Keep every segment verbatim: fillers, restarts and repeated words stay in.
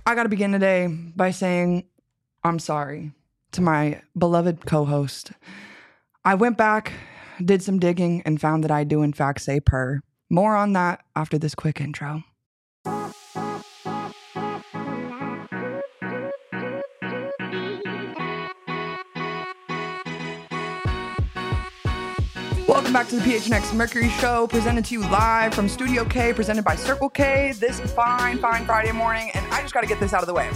I got to begin today by saying I'm sorry to my beloved co-host. I went back, did some digging, and found that I do in fact say purr. More on that after this quick intro. Welcome back to the P H N X Mercury Show, presented to you live from Studio K, presented by Circle K, this fine, fine Friday morning, and I just got to get this out of the way.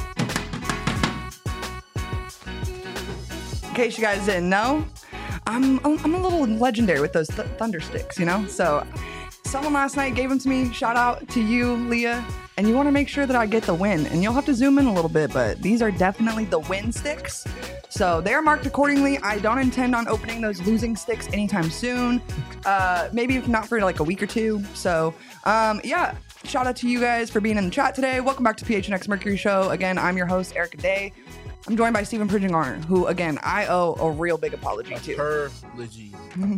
In case you guys didn't know, I'm I'm a little legendary with those th- thunder sticks, you know? So someone last night gave them to me. Shout out to you, Leah. And you want to make sure that I get the win. And you'll have to zoom in a little bit, but these are definitely the win sticks. So they're marked accordingly. I don't intend on opening those losing sticks anytime soon. Uh, maybe if not for like a week or two. So um, yeah, shout out to you guys for being in the chat today. Welcome back to P H N X Mercury Show. Again, I'm your host, Erica Day. I'm joined by Stephen Pridgeon-Garner, who, again, I owe a real big apology to. Apology.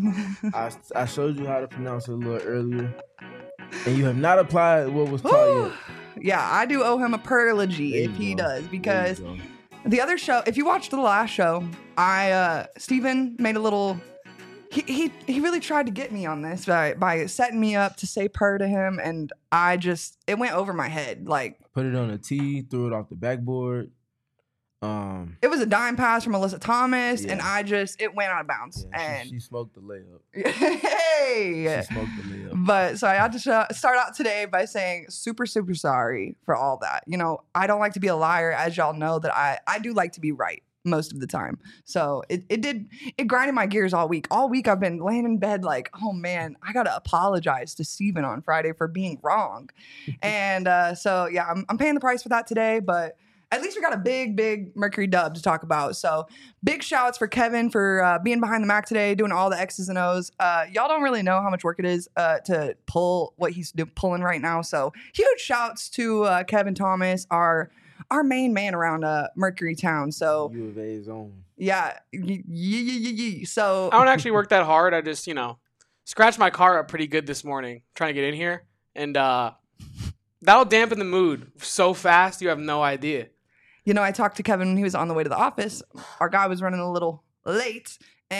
I, I showed you how to pronounce it a little earlier, and you have not applied what was taught yet. Yeah, I do owe him a perlogy if he go. does, because the other show, if you watched the last show, I, uh, Stephen made a little, he, he, he really tried to get me on this by, by setting me up to say purr to him, and I just, it went over my head, like. Put it on a tee, threw it off the backboard. Um, it was a dime pass from Alyssa Thomas, yeah. and I just, it went out of bounds. Yeah, and she, she smoked the layup. Hey! She smoked the layup. But so I had to sh- start out today by saying super, super sorry for all that. You know, I don't like to be a liar, as y'all know that I, I do like to be right most of the time. So it, it did, it grinded my gears all week. All week I've been laying in bed like, oh man, I got to apologize to Steven on Friday for being wrong. and uh, so yeah, I'm, I'm paying the price for that today, but at least we got a big, big Mercury dub to talk about. So big shouts for Kevin for uh, being behind the Mac today, doing all the X's and O's. Uh, y'all don't really know how much work it is uh, to pull what he's do- pulling right now. So huge shouts to uh, Kevin Thomas, our our main man around uh, Mercury Town. So U of A's own. Yeah. Y- y- y- y- so I don't actually work that hard. I just, you know, scratched my car up pretty good this morning trying to get in here. And uh, that'll dampen the mood so fast you have no idea. You know, I talked to Kevin when he was on the way to the office. Our guy was running a little late,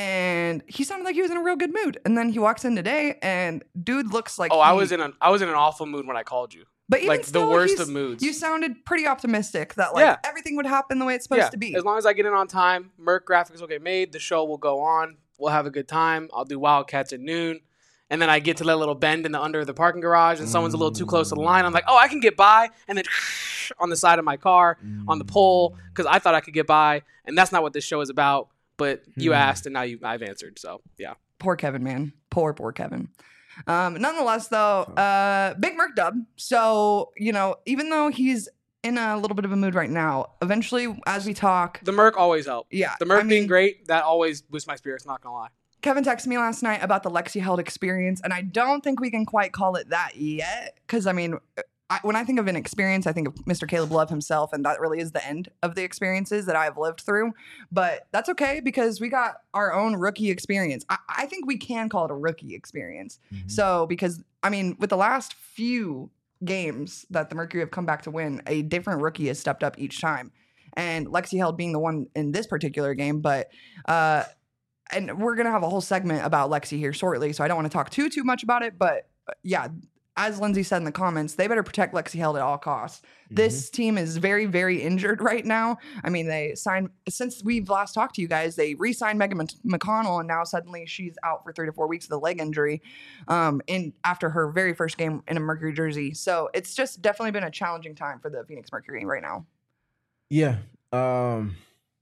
and he sounded like he was in a real good mood. And then he walks in today, and dude looks like oh, he, I was in an I was in an awful mood when I called you. But even like still, the worst of moods. You sounded pretty optimistic that like yeah. everything would happen the way it's supposed yeah. to be. As long as I get in on time, Merc graphics will get made. The show will go on. We'll have a good time. I'll do Wildcats at noon. And then I get to that little bend in the under of the parking garage, and someone's a little too close to the line. I'm like, oh, I can get by. And then on the side of my car, on the pole, because I thought I could get by. And that's not what this show is about. But you asked, and now you, I've answered. So, yeah. Poor Kevin, man. Poor, poor Kevin. Um, nonetheless, though, uh, big Merc dub. So, you know, even though he's in a little bit of a mood right now, eventually, as we talk. The Merc always helps. Yeah. The Merc I mean, being great, that always boosts my spirits, not going to lie. Kevin texted me last night about the Lexi Held experience, and I don't think we can quite call it that yet. Because, I mean, I, when I think of an experience, I think of Mister Caleb Love himself, and that really is the end of the experiences that I've lived through. But that's okay, because we got our own rookie experience. I, I think we can call it a rookie experience. Mm-hmm. So, because, I mean, with the last few games that the Mercury have come back to win, a different rookie has stepped up each time. And Lexi Held being the one in this particular game, but... uh And we're going to have a whole segment about Lexi here shortly, so I don't want to talk too, too much about it. But, uh, yeah, as Lindsay said in the comments, they better protect Lexi Held at all costs. Mm-hmm. This team is very, very injured right now. I mean, they signed, since we've last talked to you guys, they re-signed Megan McConnell, and now suddenly she's out for three to four weeks with a leg injury um, in after her very first game in a Mercury jersey. So it's just definitely been a challenging time for the Phoenix Mercury right now. Yeah. Um...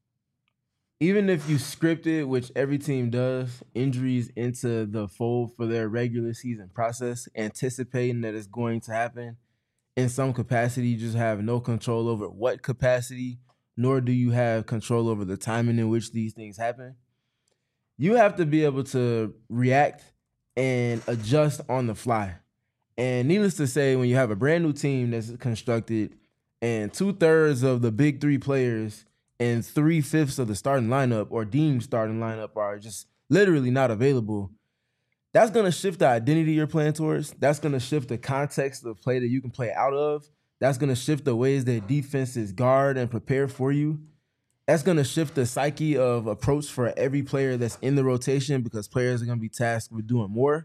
Even if you script it, which every team does, injuries into the fold for their regular season process, anticipating that it's going to happen in some capacity, you just have no control over what capacity, nor do you have control over the timing in which these things happen. You have to be able to react and adjust on the fly. And needless to say, when you have a brand new team that's constructed and two-thirds of the big three players and three-fifths of the starting lineup or deemed starting lineup are just literally not available, that's going to shift the identity you're playing towards. That's going to shift the context of play that you can play out of That's going to shift the ways that defenses guard and prepare for you. That's going to shift the psyche of approach for every player that's in the rotation because players are going to be tasked with doing more.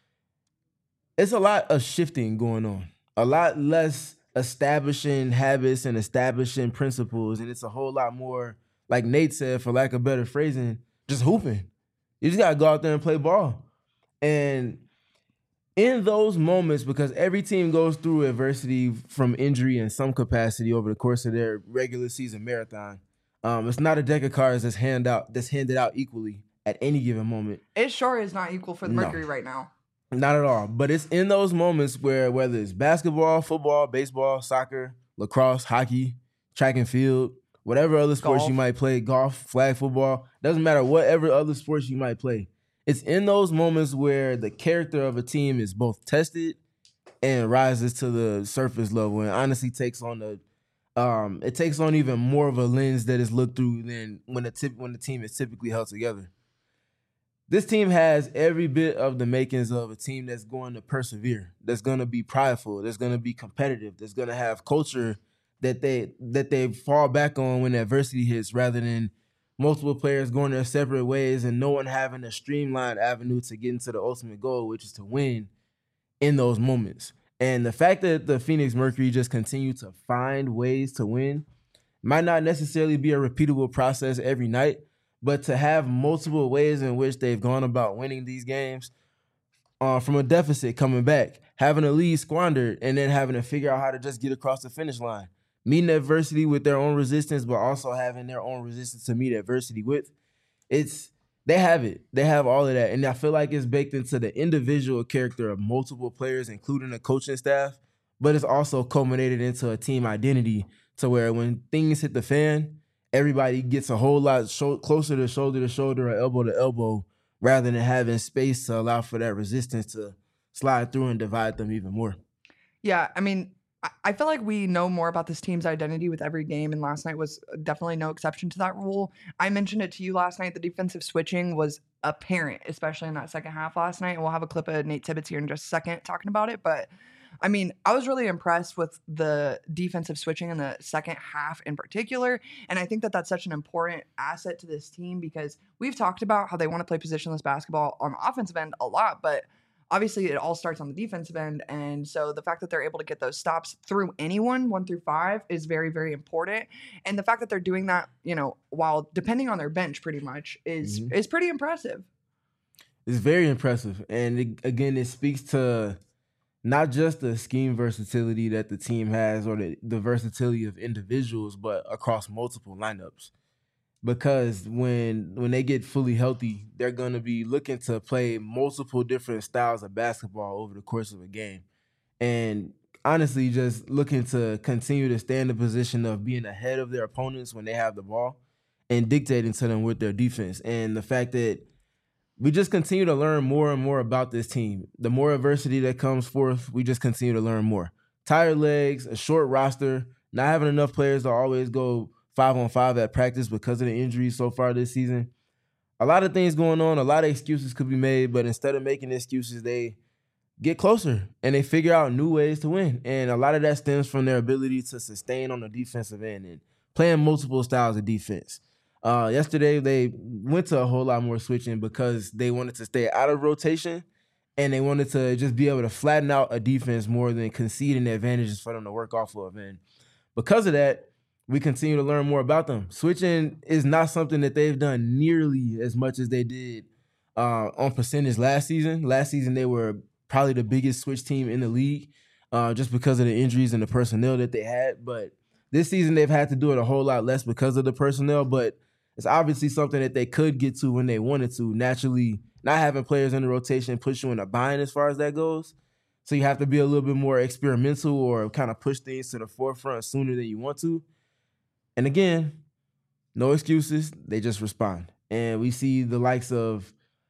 It's a lot of shifting going on, a lot less establishing habits and establishing principles, and it's a whole lot more, like Nate said, for lack of better phrasing, just hooping. You just got to go out there and play ball. And in those moments, because every team goes through adversity from injury in some capacity over the course of their regular season marathon, um, it's not a deck of cards that's hand out that's handed out equally at any given moment. It sure is not equal for the No. Mercury right now. Not at all. But it's in those moments where whether it's basketball, football, baseball, soccer, lacrosse, hockey, track and field, whatever other sports Golf. you might play, golf, flag football, doesn't matter whatever other sports you might play. It's in those moments where the character of a team is both tested and rises to the surface level and honestly takes on the um it takes on even more of a lens that is looked through than when the tip when the team is typically held together. This team has every bit of the makings of a team that's going to persevere, that's going to be prideful, that's going to be competitive, that's going to have culture that they that they fall back on when adversity hits, rather than multiple players going their separate ways and no one having a streamlined avenue to get into the ultimate goal, which is to win in those moments. And the fact that the Phoenix Mercury just continue to find ways to win might not necessarily be a repeatable process every night, but to have multiple ways in which they've gone about winning these games, uh, from a deficit coming back, having a lead squandered, and then having to figure out how to just get across the finish line, meeting adversity with their own resistance, but also having their own resistance to meet adversity with. It's they have it. They have all of that. And I feel like it's baked into the individual character of multiple players, including the coaching staff, but it's also culminated into a team identity to where when things hit the fan, everybody gets a whole lot sho- closer to shoulder to shoulder or elbow to elbow, rather than having space to allow for that resistance to slide through and divide them even more. Yeah, I mean, I- I feel like we know more about this team's identity with every game, and last night was definitely no exception to that rule. I mentioned it to you last night. The defensive switching was apparent, especially in that second half last night, and we'll have a clip of Nate Tibbetts here in just a second talking about it, but I mean, I was really impressed with the defensive switching in the second half in particular. And I think that that's such an important asset to this team because we've talked about how they want to play positionless basketball on the offensive end a lot, but obviously it all starts on the defensive end. And so the fact that they're able to get those stops through anyone, one through five, is very, very important. And the fact that they're doing that, you know, while depending on their bench pretty much is, Mhm. is pretty impressive. It's very impressive. And it, again, it speaks to not just the scheme versatility that the team has or the, the versatility of individuals, but across multiple lineups. Because when when they get fully healthy, they're going to be looking to play multiple different styles of basketball over the course of a game. And honestly, just looking to continue to stay in the position of being ahead of their opponents when they have the ball and dictating to them with their defense. And the fact that we just continue to learn more and more about this team. The more adversity that comes forth, we just continue to learn more. Tired legs, a short roster, not having enough players to always go five on five at practice because of the injuries so far this season. A lot of things going on. A lot of excuses could be made, but instead of making excuses, they get closer and they figure out new ways to win. And a lot of that stems from their ability to sustain on the defensive end and playing multiple styles of defense. Uh, yesterday, they went to a whole lot more switching because they wanted to stay out of rotation and they wanted to just be able to flatten out a defense more than conceding the advantages for them to work off of. And because of that, we continue to learn more about them. Switching is not something that they've done nearly as much as they did uh, on percentage last season. Last season, they were probably the biggest switch team in the league uh, just because of the injuries and the personnel that they had. But this season, they've had to do it a whole lot less because of the personnel, but it's obviously something that they could get to when they wanted to. Naturally, not having players in the rotation push you in a bind as far as that goes. So you have to be a little bit more experimental or kind of push things to the forefront sooner than you want to. And again, no excuses. They just respond. And we see the likes of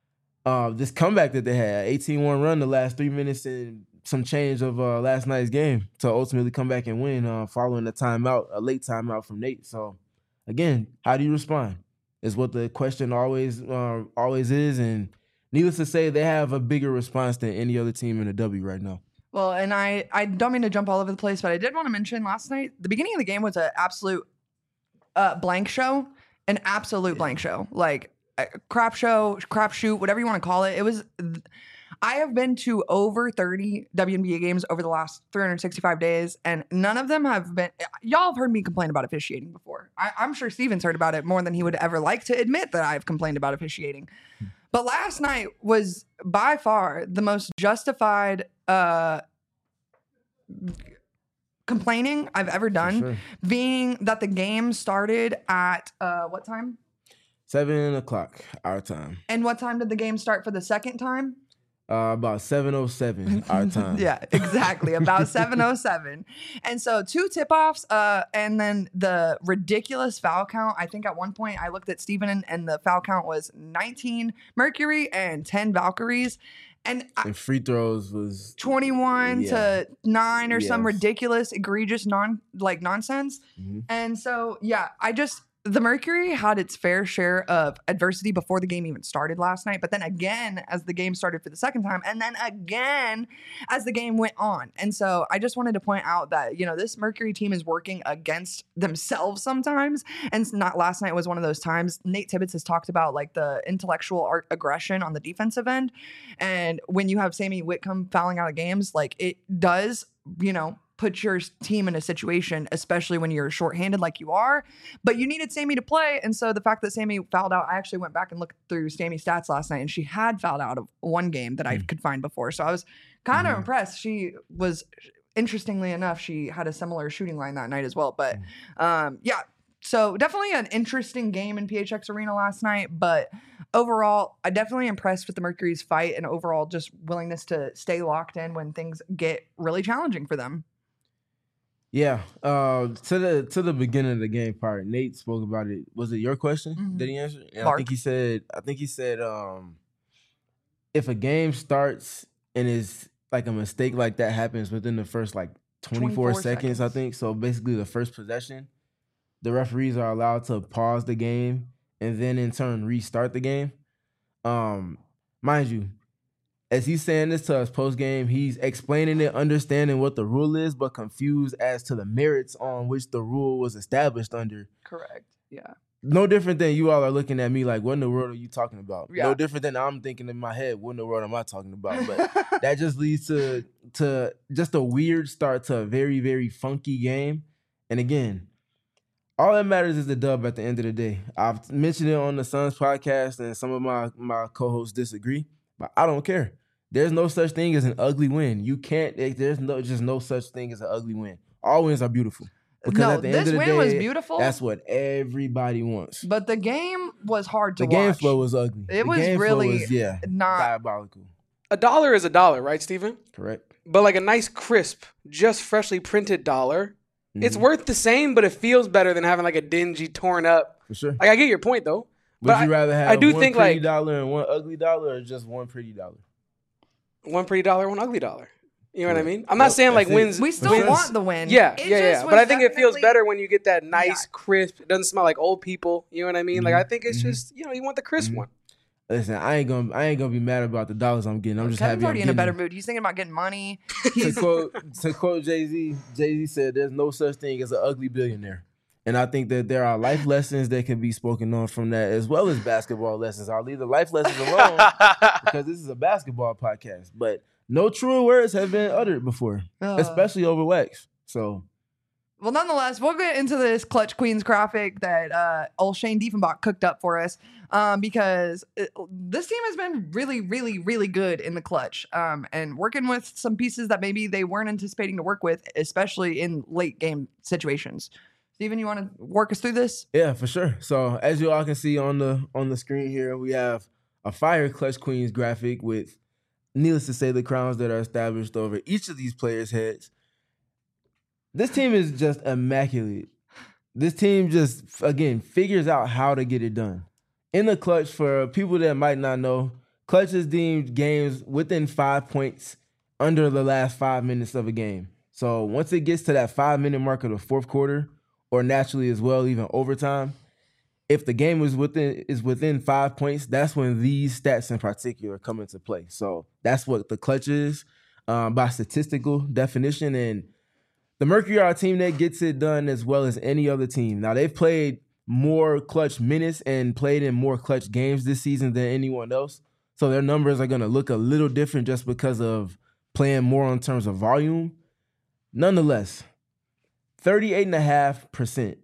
uh, this comeback that they had, eighteen one run the last three minutes and some change of uh, last night's game to ultimately come back and win uh, following a timeout, a late timeout from Nate. So again, how do you respond is what the question always uh, always is. And needless to say, they have a bigger response than any other team in the W right now. Well, and I, I don't mean to jump all over the place, but I did want to mention last night, the beginning of the game was an absolute uh, blank show, an absolute blank show. Like, a crap show, crap shoot, whatever you want to call it. It was, I have been to over thirty W N B A games over the last three hundred sixty-five days, and none of them have been, y'all have heard me complain about officiating before. I, I'm sure Steven's heard about it more than he would ever like to admit that I've complained about officiating. But last night was by far the most justified uh, complaining I've ever done, sure. being that the game started at uh, what time? Seven o'clock our time. And what time did the game start for the second time? Uh, about seven oh seven our time. Yeah, exactly. About seven oh seven. And so two tip-offs uh, and then the ridiculous foul count. I think at one point I looked at Steven and, and the foul count was nineteen Mercury and ten Valkyries. And, I, and free throws was twenty-one yeah. to nine or yes. some ridiculous, egregious, non like nonsense. Mm-hmm. And so, yeah, I just... The Mercury had its fair share of adversity before the game even started last night, but then again as the game started for the second time, and then again as the game went on. And so I just wanted to point out that, you know, this Mercury team is working against themselves sometimes, and not last night was one of those times. Nate Tibbetts has talked about like the intellectual art aggression on the defensive end, and when you have Sammy Whitcomb fouling out of games, like it does, you know, put your team in a situation, especially when you're shorthanded like you are. But you needed Sammy to play. And so the fact that Sammy fouled out, I actually went back and looked through Sammy's stats last night, and she had fouled out of one game that I could find before. So I was kind of mm-hmm. impressed. She was, interestingly enough, she had a similar shooting line that night as well. But um, yeah, so definitely an interesting game in P H X Arena last night. But overall, I definitely impressed with the Mercury's fight and overall just willingness to stay locked in when things get really challenging for them. Yeah, uh, to the to the beginning of the game part, Nate spoke about it. Was it your question? Mm-hmm. Did he answer? And Mark. I think he said. I think he said, um, if a game starts and is like a mistake like that happens within the first like twenty-four, twenty-four seconds, seconds, I think. So basically, the first possession, the referees are allowed to pause the game and then in turn restart the game. Um, mind you, as he's saying this to us post-game, he's explaining it, understanding what the rule is, but confused as to the merits on which the rule was established under. Correct. Yeah. No different than you all are looking at me like, what in the world are you talking about? Yeah. No different than I'm thinking in my head, what in the world am I talking about? But that just leads to, to just a weird start to a very, very funky game. And again, all that matters is the dub at the end of the day. I've mentioned it on the Suns podcast, and some of my, my co-hosts disagree, but I don't care. There's no such thing as an ugly win. You can't, there's no just no such thing as an ugly win. All wins are beautiful. Because no, at the this end of the win day, was beautiful. That's what everybody wants. But the game was hard to the watch. The game flow was ugly. It the was game really flow was, yeah, not diabolical. A dollar is a dollar, right, Steven? Correct. But like a nice, crisp, just freshly printed dollar, mm-hmm. it's worth the same, but it feels better than having like a dingy, torn up. For sure. Like I get your point though. Would but you I, rather have I do one think pretty like dollar and one ugly dollar, or just one pretty dollar? One pretty dollar, one ugly dollar. You know Correct. what I mean? I'm not Yep, saying like it. wins. We still wins. want the win. Yeah, It yeah, yeah. just But I was think it feels definitely- better when you get that nice, Yeah. crisp. It doesn't smell like old people. You know what I mean? Like I think it's Mhm. just you know you want the crisp Mhm. one. Listen, I ain't gonna, I ain't gonna be mad about the dollars I'm getting. I'm just Kevin's happy already I'm in a better getting mood. He's thinking about getting money. them. To He's quote, to quote Jay Z, Jay Z said, "There's no such thing as an ugly billionaire." And I think that there are life lessons that can be spoken on from that, as well as basketball lessons. I'll leave the life lessons alone because this is a basketball podcast. But no truer words have been uttered before, Uh. especially over wax. So, Well, nonetheless, we'll get into this Clutch Queens graphic that uh, old Shane Diefenbach cooked up for us um, because it, this team has been really, really, really good in the clutch um, and working with some pieces that maybe they weren't anticipating to work with, especially in late game situations. Steven, you want to work us through this? yeah, for sure. So, as you all can see on the on the screen here, we have a fire Clutch Queens graphic with, needless to say, the crowns that are established over each of these players' heads. This team is just immaculate. This team just, again, figures out how to get it done. In the clutch, for people that might not know, clutch is deemed games within five points under the last five minutes of a game. So once it gets to that five-minute mark of the fourth quarter, or naturally as well, even overtime, if the game is within is within five points, that's when these stats in particular come into play. So that's what the clutch is. um, by statistical definition. And the Mercury are a team that gets it done as well as any other team. Now, they've played more clutch minutes and played in more clutch games this season than anyone else. So their numbers are going to look a little different just because of playing more in terms of volume. Nonetheless, thirty-eight point five percent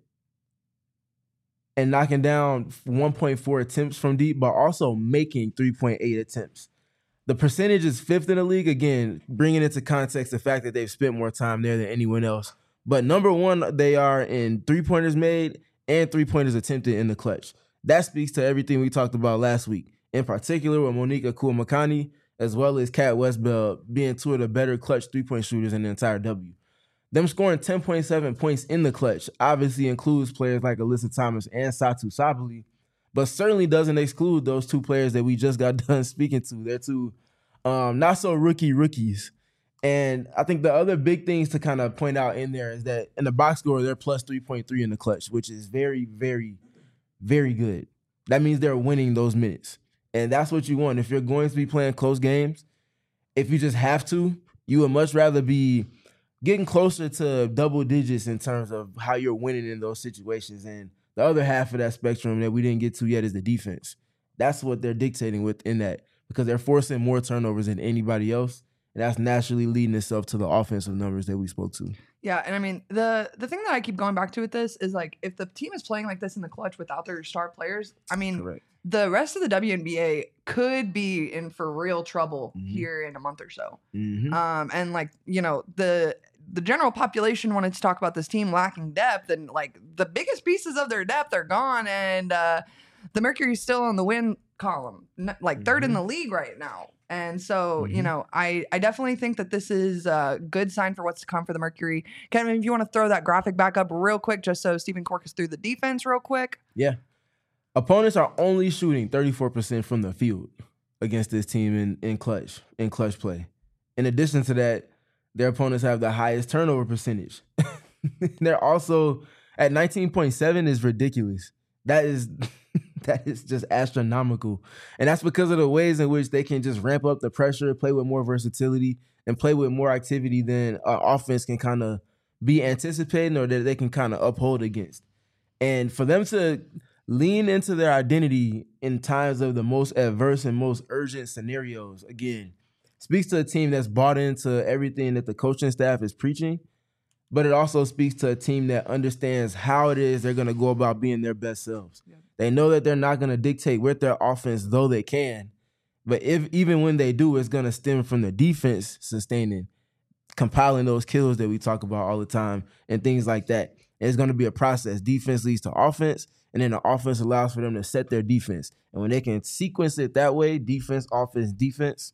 and knocking down one point four attempts from deep, but also making three point eight attempts. The percentage is fifth in the league, again, bringing into context the fact that they've spent more time there than anyone else. But number one, they are in three-pointers made and three-pointers attempted in the clutch. That speaks to everything we talked about last week, in particular with Monique Akuamakani, as well as Kat Westbell being two of the better clutch three-point shooters in the entire W. Them scoring ten point seven points in the clutch obviously includes players like Alyssa Thomas and Satu Sabali, but certainly doesn't exclude those two players that we just got done speaking to. They're two um, not-so-rookie rookies. And I think the other big things to kind of point out in there is that in the box score, they're plus three point three in the clutch, which is very, very, very good. That means they're winning those minutes. And that's what you want. If you're going to be playing close games, if you just have to, you would much rather be getting closer to double digits in terms of how you're winning in those situations. And the other half of that spectrum that we didn't get to yet is the defense. That's what they're dictating within that, because they're forcing more turnovers than anybody else. And that's naturally leading itself to the offensive numbers that we spoke to. Yeah, and I mean, the the thing that I keep going back to with this is, like, if the team is playing like this in the clutch without their star players, I mean, Correct. the rest of the W N B A could be in for real trouble Mhm. here in a month or so. Mm-hmm. Um, and, like, you know, the the general population wanted to talk about this team lacking depth, and, like, the biggest pieces of their depth are gone, and uh, the Mercury's still on the win column, n- like third in Mhm. the league right now. And so, you Mhm. know, I, I definitely think that this is a good sign for what's to come for the Mercury. Kevin, if you want to throw that graphic back up real quick, just so Stephen Cork is through the defense real quick. Yeah. Opponents are only shooting thirty-four percent from the field against this team in, in clutch, in clutch play. In addition to that, their opponents have the highest turnover percentage. They're also at nineteen point seven is ridiculous. That is that is just astronomical. And that's because of the ways in which they can just ramp up the pressure, play with more versatility, and play with more activity than uh, offense can kind of be anticipating or that they can kind of uphold against. And for them to lean into their identity in times of the most adverse and most urgent scenarios, again, speaks to a team that's bought into everything that the coaching staff is preaching, but it also speaks to a team that understands how it is they're going to go about being their best selves. Yeah. They know that they're not going to dictate with their offense, though they can, but if even when they do, it's going to stem from the defense sustaining, compiling those kills that we talk about all the time and things like that. And it's going to be a process. Defense leads to offense, and then the offense allows for them to set their defense. And when they can sequence it that way, defense, offense, defense,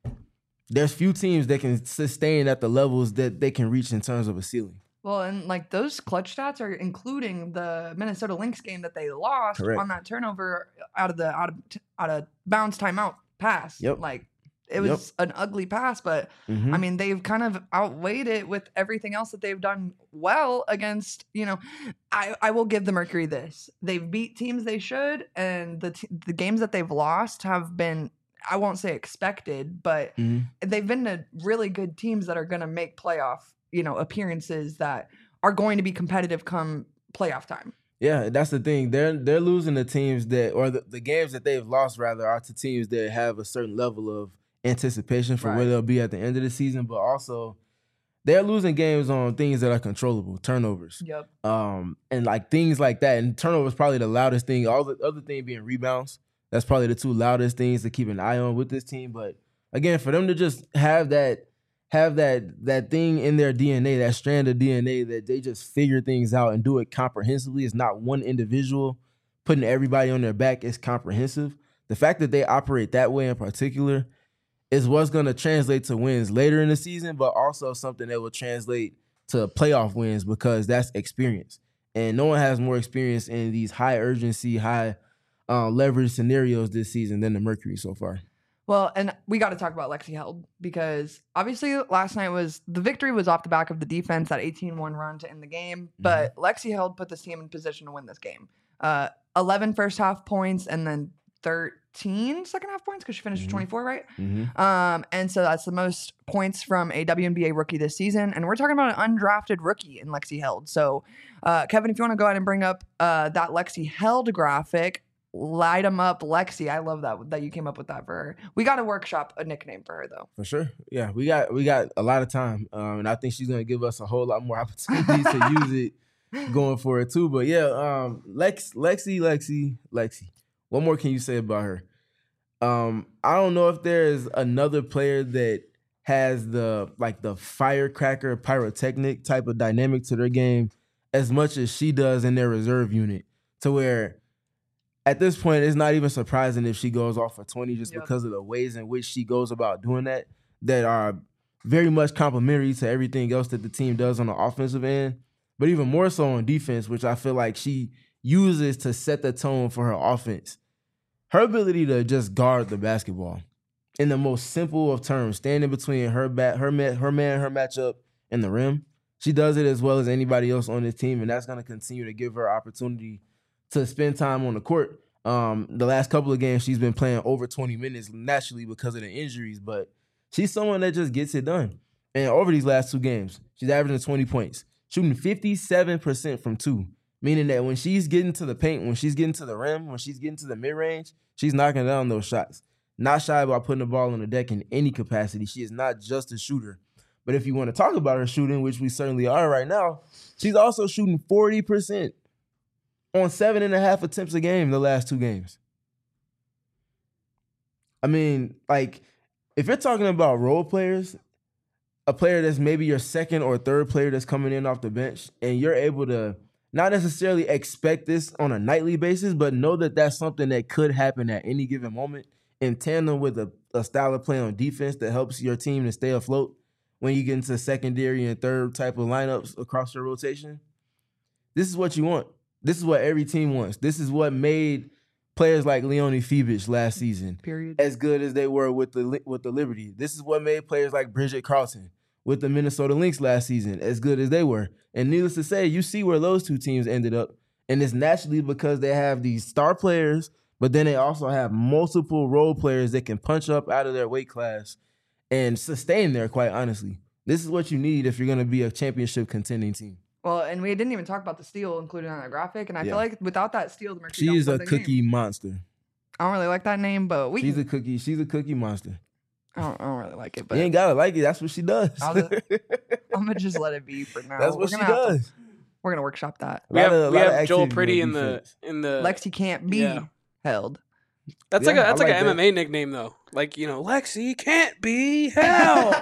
there's few teams that can sustain at the levels that they can reach in terms of a ceiling. Well, and like those clutch stats are including the Minnesota Lynx game that they lost Correct. on that turnover out of the out of out of bounds timeout pass. Yep. Like it was yep. an ugly pass, but mm-hmm. I mean they've kind of outweighed it with everything else that they've done well against. You know, I I will give the Mercury this: they've beat teams they should, and the t- the games that they've lost have been, I won't say expected, but mm-hmm. they've been to really good teams that are going to make playoff, you know, appearances that are going to be competitive come playoff time. Yeah, that's the thing. They're they're losing the teams that, or the, the games that they've lost rather, are to teams that have a certain level of anticipation for right. where they'll be at the end of the season, but also they're losing games on things that are controllable, turnovers. Yep. Um, and like things like that. And turnovers probably the loudest thing. All the other thing being rebounds. That's probably the two loudest things to keep an eye on with this team. But again, for them to just have that, have that that thing in their D N A, that strand of D N A that they just figure things out and do it comprehensively. It's not one individual putting everybody on their back. It's comprehensive. The fact that they operate that way in particular is what's going to translate to wins later in the season, but also something that will translate to playoff wins because that's experience. And no one has more experience in these high urgency, high Uh, leverage scenarios this season than the Mercury so far. Well, and we got to talk about Lexi Held because obviously last night was the victory was off the back of the defense, that eighteen one run to end the game. Mm-hmm. But Lexi Held put this team in position to win this game. Uh, eleven first half points and then thir- thirteen second half points because she finished Mhm. with twenty-four, right? Mm-hmm. Um, and so that's the most points from a W N B A rookie this season. And we're talking about an undrafted rookie in Lexi Held. So, uh, Kevin, if you want to go ahead and bring up uh, that Lexi Held graphic, light 'em up, Lexi. I love that that you came up with that for her. We got to workshop a nickname for her though. For sure. Yeah, we got we got a lot of time, um, and I think she's gonna give us a whole lot more opportunities to use it going for it too. But yeah, um, Lex, Lexi, Lexi, Lexi. What more can you say about her? Um, I don't know if there is another player that has the like the firecracker pyrotechnic type of dynamic to their game as much as she does in their reserve unit, to where at this point, it's not even surprising if she goes off for twenty just Yep. because of the ways in which she goes about doing that, that are very much complementary to everything else that the team does on the offensive end, but even more so on defense, which I feel like she uses to set the tone for her offense. Her ability to just guard the basketball in the most simple of terms, standing between her bat, her man, her man, her matchup, and the rim. She does it as well as anybody else on this team, and that's going to continue to give her opportunity to spend time on the court. Um, the last couple of games, she's been playing over twenty minutes naturally because of the injuries, but she's someone that just gets it done. And over these last two games, she's averaging twenty points, shooting fifty-seven percent from two, meaning that when she's getting to the paint, when she's getting to the rim, when she's getting to the mid-range, she's knocking down those shots. Not shy about putting the ball on the deck in any capacity. She is not just a shooter. But if you want to talk about her shooting, which we certainly are right now, she's also shooting forty percent. On seven and a half attempts a game the last two games. I mean, like, if you're talking about role players, a player that's maybe your second or third player that's coming in off the bench, and you're able to not necessarily expect this on a nightly basis, but know that that's something that could happen at any given moment in tandem with a, a style of play on defense that helps your team to stay afloat when you get into secondary and third type of lineups across your rotation. This is what you want. This is what every team wants. This is what made players like Leonie Fibich last season Period. as good as they were with the with the Liberty. This is what made players like Bridget Carlton with the Minnesota Lynx last season as good as they were. And needless to say, you see where those two teams ended up. And it's naturally because they have these star players, but then they also have multiple role players that can punch up out of their weight class and sustain there, quite honestly. This is what you need if you're going to be a championship contending team. Well, and we didn't even talk about the steal included on that graphic, and I Yeah. feel like without that steal, the Mercury She's don't a win the cookie game. monster. I don't really like that name, but we. She's Can, a cookie. She's a cookie monster. I, don't, I don't really like it, but You ain't gotta like it. That's what she does. I'll just- I'm gonna just let it be for now. That's what we're she gonna have to- does. we're gonna workshop that. We have, Lot of- we lot of have Joel activity Pretty on in the defense. in the Lexi can't be yeah. held. That's Yeah, like a that's I like, like an that. M M A nickname though. Like, you know, Lexi can't be held.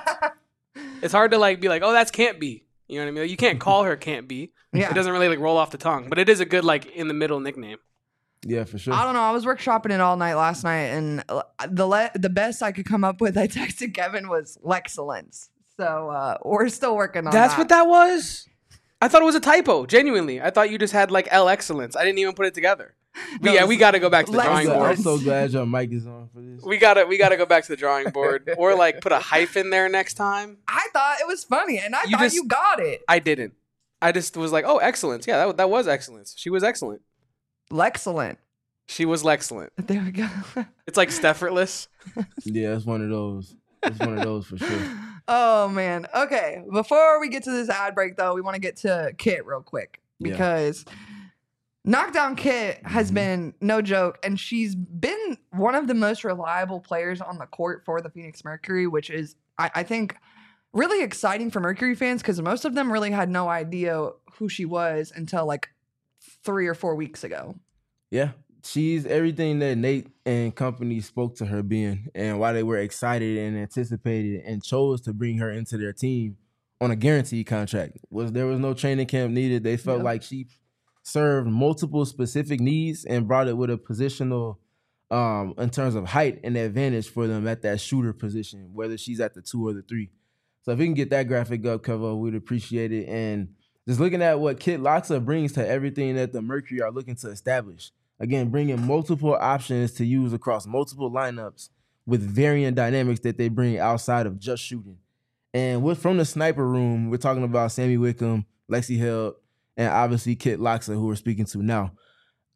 It's hard to like be like, oh, that's can't be. You know what I mean? Like, you can't call her can't be. Yeah. It doesn't really like roll off the tongue, but it is a good like in the middle nickname. Yeah, for sure. I don't know. I was workshopping it all night last night, and uh, the le- the best I could come up with, I texted Kevin, was Lexcellence. So uh, we're still working on That's that. what that was? I thought it was a typo. Genuinely, I thought you just had like L excellence. I didn't even put it together. But No, yeah, we got to go back to the Lex- drawing I'm, so, board. I'm so glad your mic is on for this. We gotta we gotta go back to the drawing board, or like put a hyphen there next time. I thought it was funny, and I You thought just- you got it. I didn't. I just was like, oh, excellence. Yeah, that that was excellence. She was excellent. Lexcellent. She was excellent. There we go. It's like Steffortless. Yeah, it's one of those. It's one of those for sure. Oh man. Okay. Before we get to this ad break, though, we want to get to Kit real quick Yeah. because Knockdown Kit has Mhm. been no joke, and she's been one of the most reliable players on the court for the Phoenix Mercury, which is, I, I think, really exciting for Mercury fans because most of them really had no idea who she was until like three or four weeks ago. Yeah, she's everything that Nate and company spoke to her being, and why they were excited and anticipated and chose to bring her into their team on a guaranteed contract. Was there was no training camp needed. They felt Yeah. like she served multiple specific needs and brought it with a positional, um, in terms of height and advantage for them at that shooter position, whether she's at the two or the three. So if we can get that graphic up, cover, we'd appreciate it. And just looking at what Kit Loxa brings to everything that the Mercury are looking to establish. Again, bringing multiple options to use across multiple lineups with varying dynamics that they bring outside of just shooting. And with, from the sniper room, we're talking about Sammy Wickham, Lexi Held, and obviously Kit Loxa, who we're speaking to now.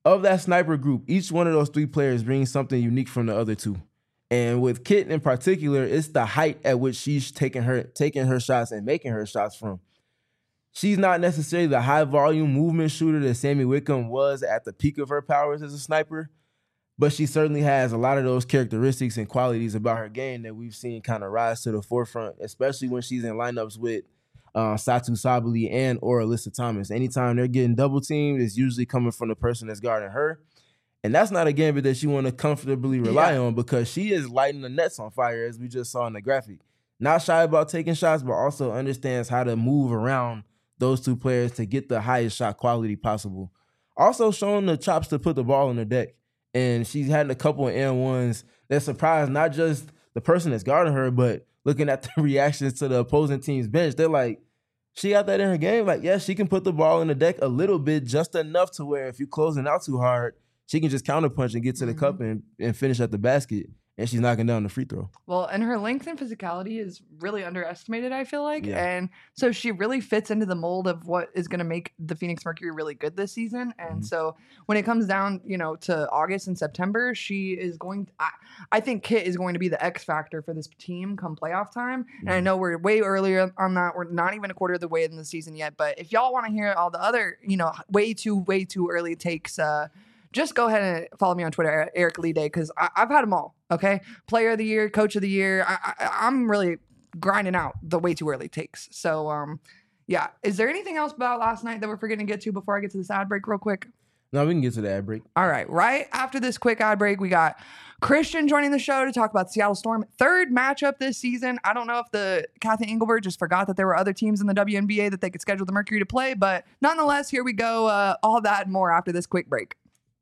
of that sniper group, each one of those three players brings something unique from the other two. And with Kit in particular, it's the height at which she's taking her taking her shots and making her shots from. She's not necessarily the high volume movement shooter that Sammy Wickham was at the peak of her powers as a sniper, but she certainly has a lot of those characteristics and qualities about her game that we've seen kind of rise to the forefront, especially when she's in lineups with uh, Satu Sabali and or Alyssa Thomas. Anytime they're getting double teamed, it's usually coming from the person that's guarding her. And that's not a gambit that you want to comfortably rely yeah. on, because she is lighting the nets on fire, as we just saw in the graphic. Not shy about taking shots, but also understands how to move around those two players to get the highest shot quality possible. Also showing the chops to put the ball on the deck. And she's had a couple of N ones that surprised not just the person that's guarding her, but looking at the reactions to the opposing team's bench. They're like, she got that in her game? Like, yeah, she can put the ball in the deck a little bit, just enough to where if you're closing out too hard, she can just counterpunch and get to the mm-hmm. cup and, and finish at the basket. And she's knocking down the free throw. Well, and her length and physicality is really underestimated, I feel like. Yeah. And so she really fits into the mold of what is going to make the Phoenix Mercury really good this season. And mm-hmm. so when it comes down, you know, to August and September, she is going to, I, I think Kit is going to be the X factor for this team come playoff time. Mm-hmm. And I know we're way earlier on that. We're not even a quarter of the way in the season yet. But if y'all want to hear all the other, you know, way too, way too early takes, uh, just go ahead and follow me on Twitter, Eric Lee Day, because I've had them all, okay? Player of the year, coach of the year. I, I, I'm really grinding out the way too early takes. So, um, yeah. Is there anything else about last night that we're forgetting to get to before I get to this ad break real quick? No, we can get to the ad break. All right. Right after this quick ad break, we got Christian joining the show to talk about the Seattle Storm. Third matchup this season. I don't know if the Kathy Engelbert just forgot that there were other teams in the W N B A that they could schedule the Mercury to play, but nonetheless, here we go. Uh, all that and more after this quick break.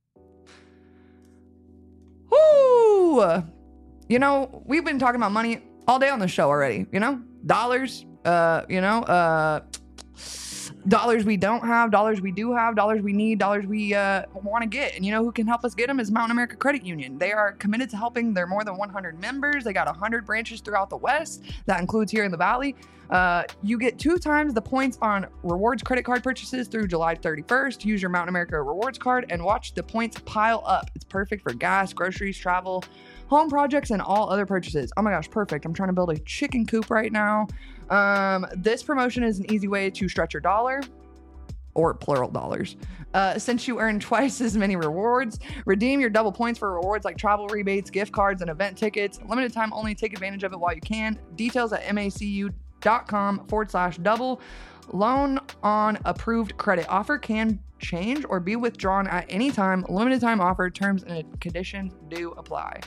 Woo! You know, we've been talking about money all day on the show already, you know? Dollars, uh, you know, uh, dollars we don't have, dollars we do have, dollars we need, dollars we uh, want to get. And you know who can help us get them is Mountain America Credit Union. They are committed to helping their more than one hundred members. They got one hundred branches throughout the West. That includes here in the Valley. Uh, you get two times the points on rewards credit card purchases through July thirty-first. Use your Mountain America rewards card and watch the points pile up. It's perfect for gas, groceries, travel, home projects, and all other purchases. Oh my gosh, perfect. I'm trying to build a chicken coop right now. Um, this promotion is an easy way to stretch your dollar, or plural dollars. Uh, since you earn twice as many rewards, redeem your double points for rewards like travel rebates, gift cards, and event tickets. Limited time only. Take advantage of it while you can. Details at macu.com forward slash double. Loan on approved credit. Offer can change or be withdrawn at any time. Limited time offer. Terms and conditions do apply.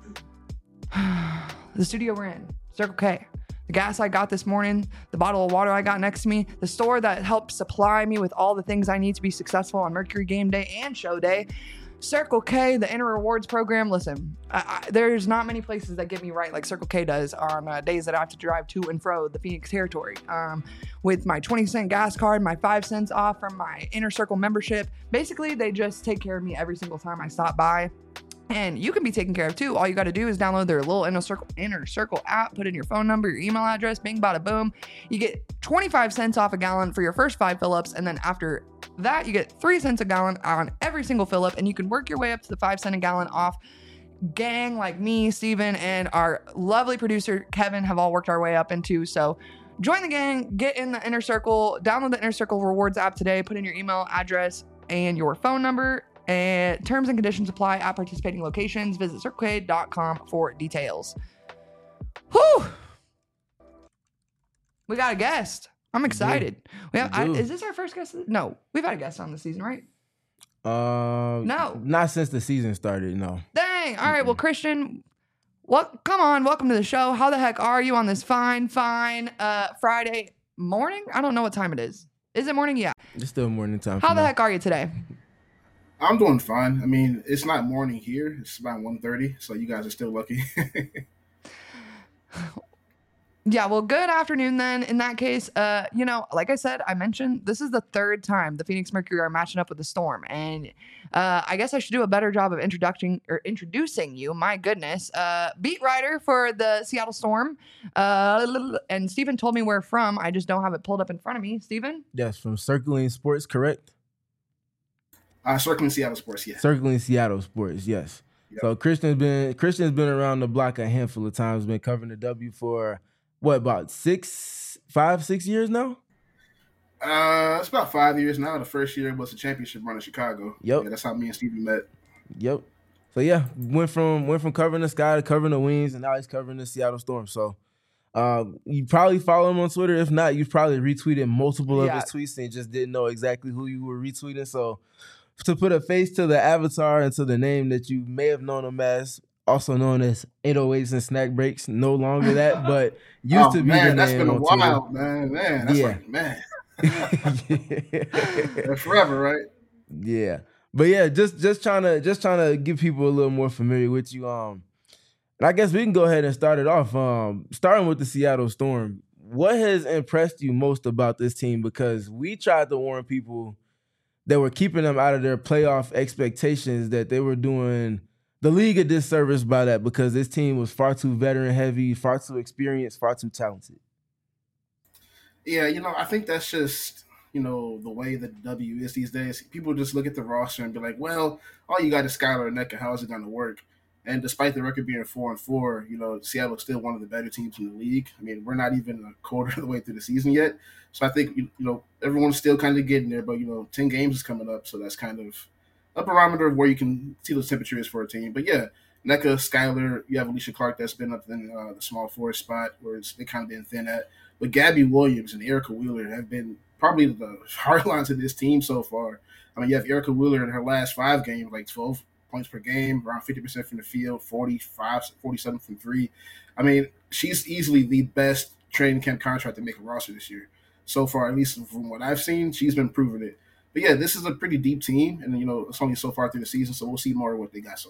The studio we're in, Circle K. The gas I got this morning, the bottle of water I got next to me, the store that helps supply me with all the things I need to be successful on Mercury Game Day and Show Day, Circle K, the Inner Rewards program. Listen, I, I, there's not many places that get me right like Circle K does on uh, days that I have to drive to and fro the Phoenix territory. Um, with my twenty cent gas card, my five cents off from my Inner Circle membership, basically they just take care of me every single time I stop by. And you can be taken care of too. All you got to do is download their little Inner Circle, Inner Circle app, put in your phone number, your email address, bing, bada, boom. You get twenty-five cents off a gallon for your first five fill-ups. And then after that, you get three cents a gallon on every single fill-up. And you can work your way up to the five cent a gallon off. Gang like me, Steven, and our lovely producer, Kevin, have all worked our way up into. So join the gang, get in the Inner Circle, download the Inner Circle Rewards app today, put in your email address and your phone number. And terms and conditions apply at participating locations. Visit circle k dot com for details. Whew! We got a guest. I'm excited. We have, I, is this our first guest? No, we've had a guest on this season, right? Uh, no, not since the season started. No. Dang. All right. Well, Christian, what? Come on. Welcome to the show. How the heck are you on this fine, fine uh, Friday morning? I don't know what time it is. Is it morning? Yeah. It's still morning time. How the heck are you today? I'm doing fine. I mean, it's not morning here. It's about one thirty, so you guys are still lucky. Yeah, well, good afternoon then. In that case, uh, you know, like I said, I mentioned this is the third time the Phoenix Mercury are matching up with the Storm, and uh, I guess I should do a better job of introducing or introducing you. My goodness, uh, beat writer for the Seattle Storm, uh, and Steven told me where from. I just don't have it pulled up in front of me. Steven? Yes, from Circling Sports, correct? Uh, Circling Seattle Sports, yeah. Circling Seattle Sports, yes. Yep. So Christian's been Christian's been around the block a handful of times. Been covering the W for what, about six, five, six years now? Uh, it's about five years now. The first year was the championship run in Chicago. Yep. Yeah, that's how me and Stevie met. Yep. So yeah, went from went from covering the Sky to covering the Wings, and now he's covering the Seattle Storm. So uh, you probably follow him on Twitter. If not, you've probably retweeted multiple Yeah. of his tweets and just didn't know exactly who you were retweeting. So to put a face to the avatar and to the name that you may have known him as, also known as eight oh eights and Snack Breaks, no longer that, but used oh, to be man, the that's name been a on while, Twitter. man. Man, that's Yeah. like, man. yeah. Forever, right? Yeah. But yeah, just just trying to just trying to get people a little more familiar with you. Um, and I guess we can go ahead and start it off. Um, starting with the Seattle Storm. What has impressed you most about this team? Because we tried to warn people that were keeping them out of their playoff expectations that they were doing the league a disservice by that, because this team was far too veteran heavy, far too experienced, far too talented. Yeah, you know, I think that's just, you know, the way the W is these days. People just look at the roster and be like, well, all you got is Skylar and Nneka. How is it going to work? And despite the record being four and four, you know, Seattle is still one of the better teams in the league. I mean, we're not even a quarter of the way through the season yet. So I think, you know, everyone's still kind of getting there. But, you know, ten games is coming up. So that's kind of a barometer of where you can see the temperature is for a team. But, yeah, Nneka, Skylar, you have Alicia Clark that's been up in uh, the small forward spot where it's they kind of been thin at. But Gabby Williams and Erica Wheeler have been probably the hard lines of this team so far. I mean, you have Erica Wheeler in her last five games, like twelve points per game, around fifty percent from the field, forty-five, forty-seven from three. I mean, she's easily the best training camp contract to make a roster this year. So far, at least from what I've seen, she's been proving it. But yeah, this is a pretty deep team, and you know, it's only so far through the season, so we'll see more of what they got so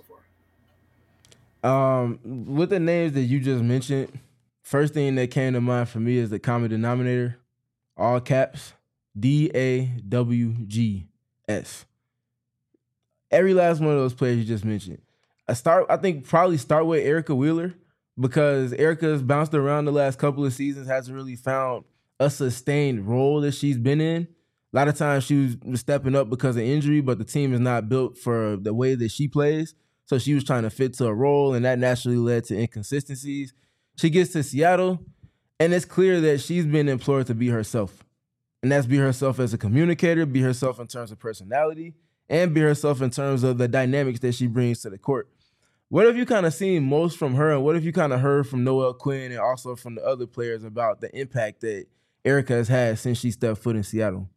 far. Um, with the names that you just mentioned, first thing that came to mind for me is the common denominator, all caps, D A W G S. Every last one of those players you just mentioned. I start. I think probably start with Erica Wheeler, because Erica's bounced around the last couple of seasons, hasn't really found a sustained role that she's been in. A lot of times she was stepping up because of injury, but the team is not built for the way that she plays. So she was trying to fit to a role, and that naturally led to inconsistencies. She gets to Seattle, and it's clear that she's been implored to be herself. And that's be herself as a communicator, be herself in terms of personality, and be herself in terms of the dynamics that she brings to the court. What have you kind of seen most from her, and what have you kind of heard from Noelle Quinn and also from the other players about the impact that Erica has had since she stepped foot in Seattle?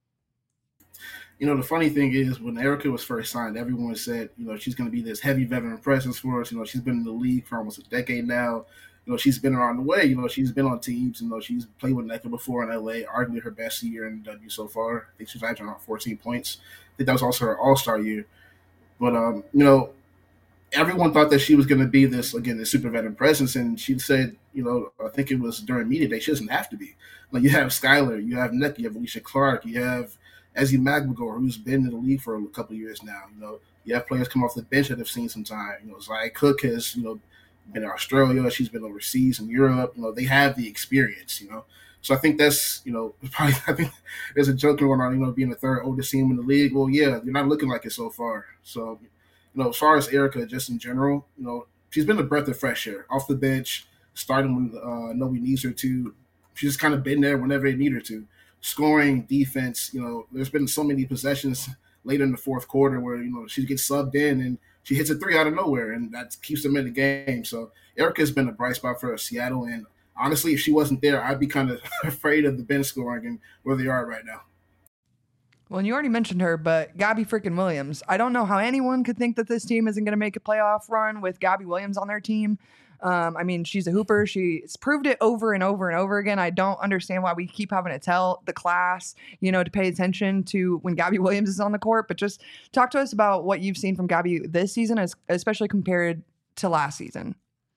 You know, the funny thing is, when Erica was first signed, everyone said, you know, she's going to be this heavy veteran presence for us. You know, she's been in the league for almost a decade now. You know, she's been around the way. You know, she's been on teams. You know, she's played with Nneka before in L A, arguably her best year in the W so far. I think she's averaging around fourteen points. I think that was also her all-star year. But, um, you know, everyone thought that she was going to be this, again, this super veteran presence. And she said, you know, I think it was during media day, she doesn't have to be. Like, you have Skylar, you have Nneka, you have Alicia Clark, you have Ezzy Magmagor, who's been in the league for a couple of years now. You know, you have players come off the bench that have seen some time. You know, Zaya Cook has, you know, been in Australia. She's been overseas in Europe. You know, they have the experience, you know. So I think that's, you know, probably, I think there's a joke going on, you know, being the third oldest team in the league. Well, yeah, you're not looking like it so far. So, you know, as far as Erica, just in general, you know, she's been a breath of fresh air. Off the bench, starting when uh, nobody needs her to. She's just kind of been there whenever they need her to. Scoring, defense, you know, there's been so many possessions later in the fourth quarter where, you know, she gets subbed in and she hits a three out of nowhere, and that keeps them in the game. So Erica's been a bright spot for Seattle, and honestly, if she wasn't there, I'd be kind of afraid of the bench scoring and where they are right now. Well, and you already mentioned her, but Gabby freaking Williams. I don't know how anyone could think that this team isn't going to make a playoff run with Gabby Williams on their team. Um, I mean, she's a hooper. She's proved it over and over and over again. I don't understand why we keep having to tell the class, you know, to pay attention to when Gabby Williams is on the court. But just talk to us about what you've seen from Gabby this season, as, especially compared to last season.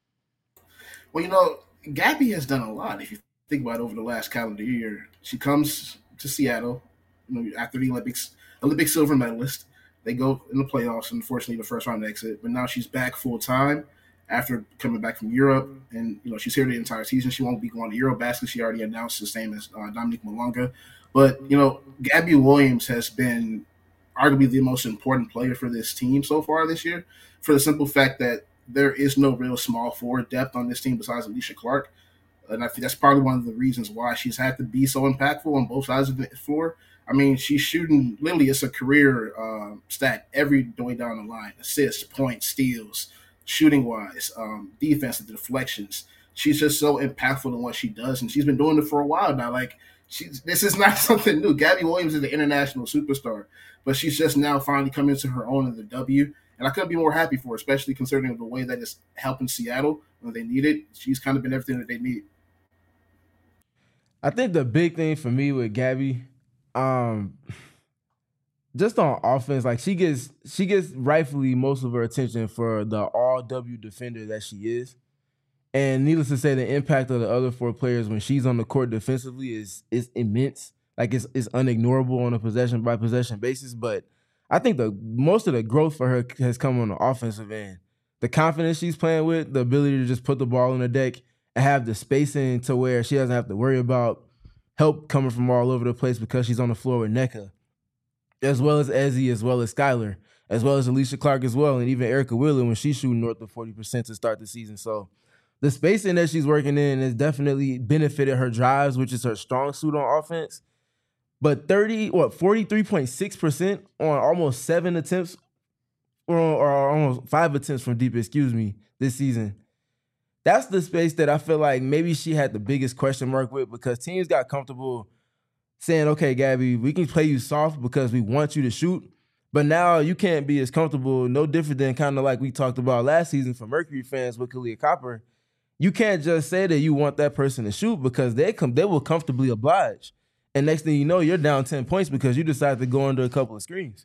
Well, you know, Gabby has done a lot. If you think about it, over the last calendar year, she comes to Seattle, you know, after the Olympics, Olympic silver medalist. They go in the playoffs, unfortunately, the first round exit. But now she's back full time after coming back from Europe, and you know she's here the entire season. She won't be going to Eurobasket. She already announced the same as uh, Dominique Malonga. But you know, Gabby Williams has been arguably the most important player for this team so far this year, for the simple fact that there is no real small forward depth on this team besides Alicia Clark. And I think that's probably one of the reasons why she's had to be so impactful on both sides of the floor. I mean, she's shooting, literally, it's a career uh, stat every way down the line. Assists, points, steals, shooting-wise, um, defense, the deflections. She's just so impactful in what she does, and she's been doing it for a while now. Like, she's, this is not something new. Gabby Williams is an international superstar, but she's just now finally coming into her own in the W. And I couldn't be more happy for her, especially considering the way that it's helping Seattle when they need it. She's kind of been everything that they need. I think the big thing for me with Gabby, um, just on offense, like she gets she gets rightfully most of her attention for the all W defender that she is. And needless to say, the impact of the other four players when she's on the court defensively is is immense. Like it's it's unignorable on a possession by possession basis. But I think the most of the growth for her has come on the offensive end. The confidence she's playing with, the ability to just put the ball on the deck and have the spacing to where she doesn't have to worry about help coming from all over the place because she's on the floor with Nneka, as well as Ezzy, as well as Skylar, as well as Alicia Clark as well, and even Erica Wheeler when she's shooting north of forty percent to start the season. So the spacing that she's working in has definitely benefited her drives, which is her strong suit on offense. But thirty, what, forty-three point six percent on almost seven attempts, or, or almost five attempts from deep, excuse me, this season. That's the space that I feel like maybe she had the biggest question mark with, because teams got comfortable saying, okay, Gabby, we can play you soft because we want you to shoot, but now you can't be as comfortable, no different than kind of like we talked about last season for Mercury fans with Kahleah Copper. You can't just say that you want that person to shoot because they come, they will comfortably oblige. And next thing you know, you're down ten points because you decided to go under a couple of screens.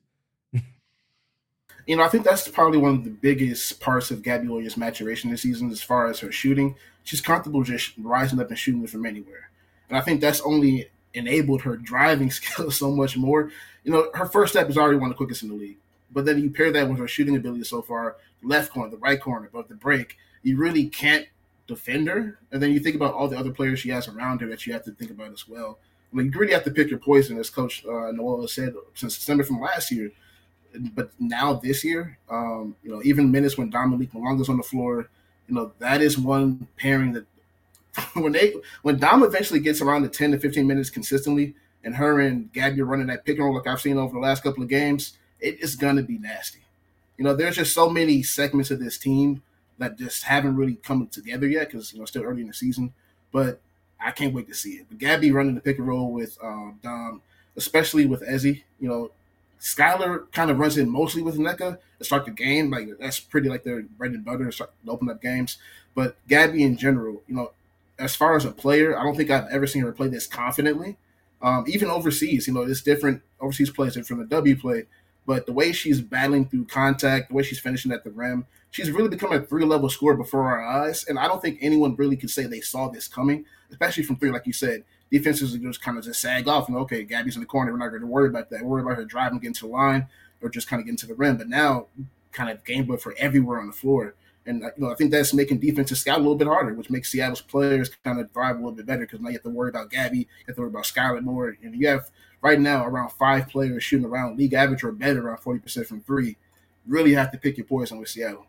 You know, I think that's probably one of the biggest parts of Gabby Williams' maturation this season as far as her shooting. She's comfortable just rising up and shooting from anywhere. And I think that's only enabled her driving skills so much more. You know, her first step is already one of the quickest in the league. But then you pair that with her shooting ability so far, the left corner, the right corner, but the break, you really can't defend her. And then you think about all the other players she has around her that you have to think about as well. I mean, you really have to pick your poison, as Coach uh, Noel has said since December from last year. But now this year, um, you know, even minutes when Dominique Malonga's on the floor, you know, that is one pairing that when they when Dom eventually gets around the ten to fifteen minutes consistently, and her and Gabby are running that pick and roll like I've seen over the last couple of games, it is gonna be nasty. You know, there's just so many segments of this team that just haven't really come together yet because you know still early in the season. But I can't wait to see it. But Gabby running the pick and roll with um, Dom, especially with Ezzy, you know. Skylar kind of runs in mostly with Nneka to start the game. Like that's pretty like their bread and butter to, start, to open up games. But Gabby in general, you know, as far as a player, I don't think I've ever seen her play this confidently. Um, even overseas, you know, it's different. Overseas plays different from the W play. But the way she's battling through contact, the way she's finishing at the rim, she's really become a three-level scorer before our eyes. And I don't think anyone really could say they saw this coming, especially from three, like you said. Defenses just kind of just sag off and, okay, Gabby's in the corner. We're not going to worry about that. We're worry about her driving, getting to the line, or just kind of getting to the rim. But now, kind of game book for everywhere on the floor. And you know, I think that's making defenses scout a little bit harder, which makes Seattle's players kind of thrive a little bit better because now you have to worry about Gabby, you have to worry about Skylar more. And you have right now around five players shooting around league average or better around forty percent from three. Really have to pick your poison with Seattle.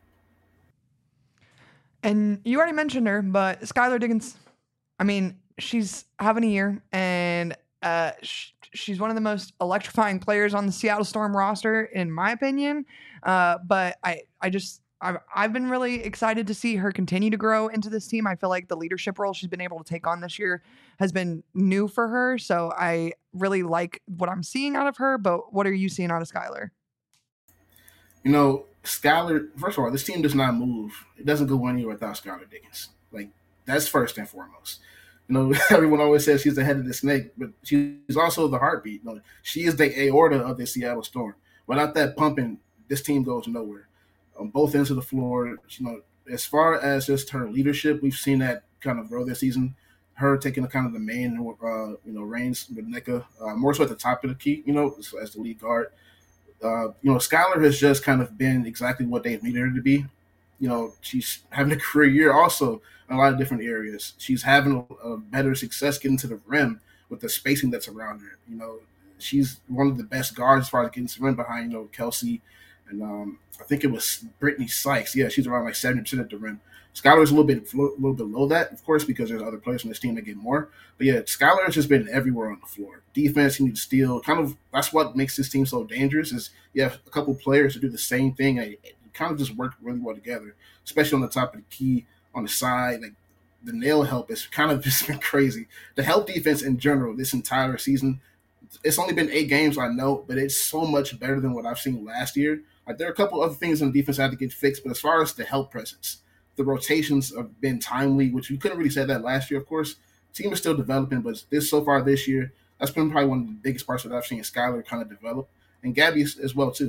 And you already mentioned her, but Skylar Diggins, I mean, she's having a year, and uh, sh- she's one of the most electrifying players on the Seattle Storm roster, in my opinion. Uh, but I, I just, I've, I've been really excited to see her continue to grow into this team. I feel like the leadership role she's been able to take on this year has been new for her. So I really like what I'm seeing out of her. But what are you seeing out of Skylar? You know, Skylar, first of all, this team does not move. It doesn't go anywhere without Skylar Diggins. Like, that's first and foremost. You know, everyone always says she's the head of the snake, but she's also the heartbeat. You know, she is the aorta of the Seattle Storm. Without that pumping, this team goes nowhere. On both ends of the floor, you know, as far as just her leadership, we've seen that kind of grow this season. Her taking the kind of the main, uh, you know, reins with Nneka, uh, more so at the top of the key, you know, as, as the lead guard. Uh, you know, Skylar has just kind of been exactly what they've needed her to be. You know, she's having a career year also in a lot of different areas. She's having a, a better success getting to the rim with the spacing that's around her. You know, she's one of the best guards as far as getting some rim behind, you know, Kelsey. And um, I think it was Brittany Sykes. Yeah, she's around like seventy percent at the rim. Skylar's a little bit a little bit below that, of course, because there's other players on this team that get more. But yeah, Skylar has just been everywhere on the floor. Defense, you need to steal. Kind of that's what makes this team so dangerous. Is you have a couple players to do the same thing, and it kind of just work really well together, especially on the top of the key, on the side. Like the nail help has kind of just been crazy. The help defense in general this entire season. It's only been eight games, I know, but it's so much better than what I've seen last year. Like there are a couple other things on defense that had to get fixed, but as far as the help presence, the rotations have been timely, which you couldn't really say that last year, of course. The team is still developing, but this so far this year, that's been probably one of the biggest parts that I've seen Skylar kind of develop, and Gabby as well too.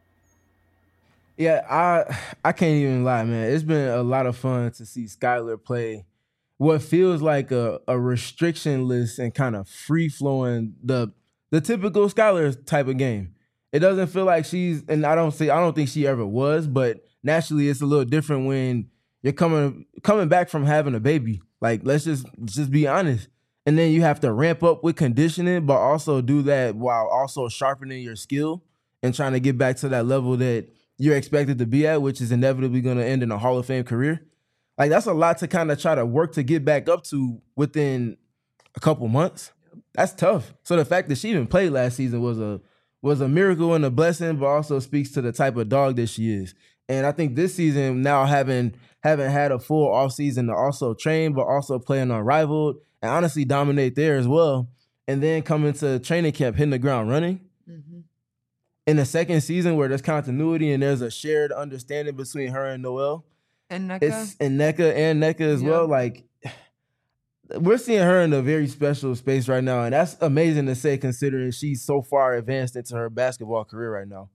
Yeah, I I can't even lie, man. It's been a lot of fun to see Skylar play what feels like a, a restrictionless and kind of free flowing the the typical Skylar type of game. It doesn't feel like she's, and I don't say I don't think she ever was, but naturally it's a little different when you're coming coming back from having a baby. Like let's just just be honest. And then you have to ramp up with conditioning, but also do that while also sharpening your skill and trying to get back to that level that you're expected to be at, which is inevitably going to end in a Hall of Fame career. Like that's a lot to kind of try to work to get back up to within a couple months. That's tough. So the fact that she even played last season was a was a miracle and a blessing, but also speaks to the type of dog that she is. And I think this season, now having having had a full offseason to also train, but also play in Unrivaled and honestly dominate there as well, and then come into training camp hitting the ground running. Mm-hmm. In the second season where there's continuity and there's a shared understanding between her and Noelle. And NECA. It's, and NECA and NECA as yeah. well. Like, we're seeing her in a very special space right now, and that's amazing to say considering she's so far advanced into her basketball career right now.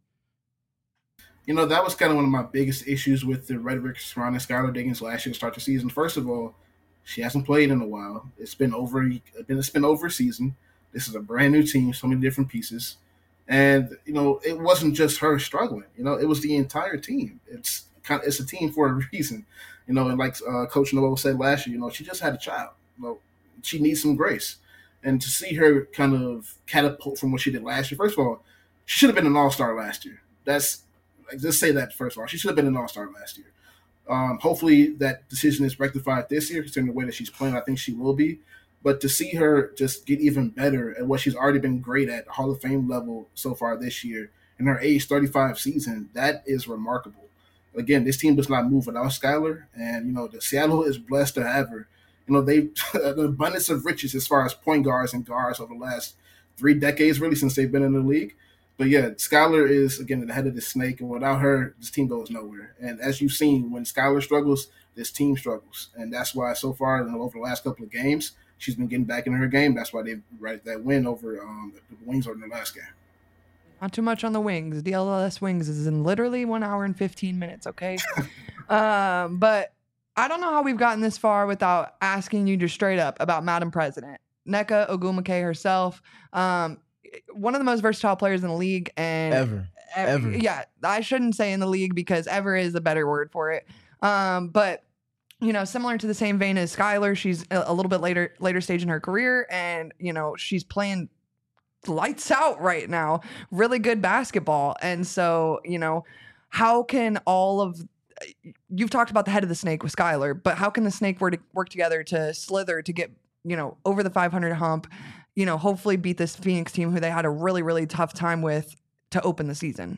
You know, that was kind of one of my biggest issues with the rhetoric surrounding Skylar Diggins last year to start the season. First of all, she hasn't played in a while. It's been over. It's been over a season. This is a brand new team, so many different pieces, and you know, it wasn't just her struggling. You know, it was the entire team. It's kind of it's a team for a reason. You know, and like uh, Coach Noelle said last year, you know, she just had a child. You know, she needs some grace, and to see her kind of catapult from what she did last year. First of all, she should have been an all-star last year. That's like, just say that first of all. She should have been an all-star last year. Um, hopefully that decision is rectified this year, considering the way that she's playing. I think she will be. But to see her just get even better at what she's already been great at, Hall of Fame level so far this year, in her age thirty-five season, that is remarkable. Again, this team does not move without Skylar, and you know the Seattle is blessed to have her. You know they an abundance of riches as far as point guards and guards over the last three decades, really since they've been in the league. But yeah, Skylar is, again, the head of the snake, and without her, this team goes nowhere. And as you've seen, when Skylar struggles, this team struggles. And that's why so far, you know, over the last couple of games, she's been getting back in her game. That's why they right that win over um, the Wings over in the last game. Not too much on the Wings. D L S Wings is in literally one hour and fifteen minutes, okay? um, but I don't know how we've gotten this far without asking you just straight up about Madam President. Nneka Ogwumike herself. Um, one of the most versatile players in the league, and ever, ever, ever. Yeah, I shouldn't say in the league because ever is a better word for it. Um, but you know, similar to the same vein as Skylar, she's a, a little bit later, later stage in her career, and you know, she's playing lights out right now. Really good basketball, and so you know, how can all of you've talked about the head of the snake with Skylar, but how can the snake work work together to slither to get you know over the five hundred hump? You know, hopefully beat this Phoenix team who they had a really, really tough time with to open the season.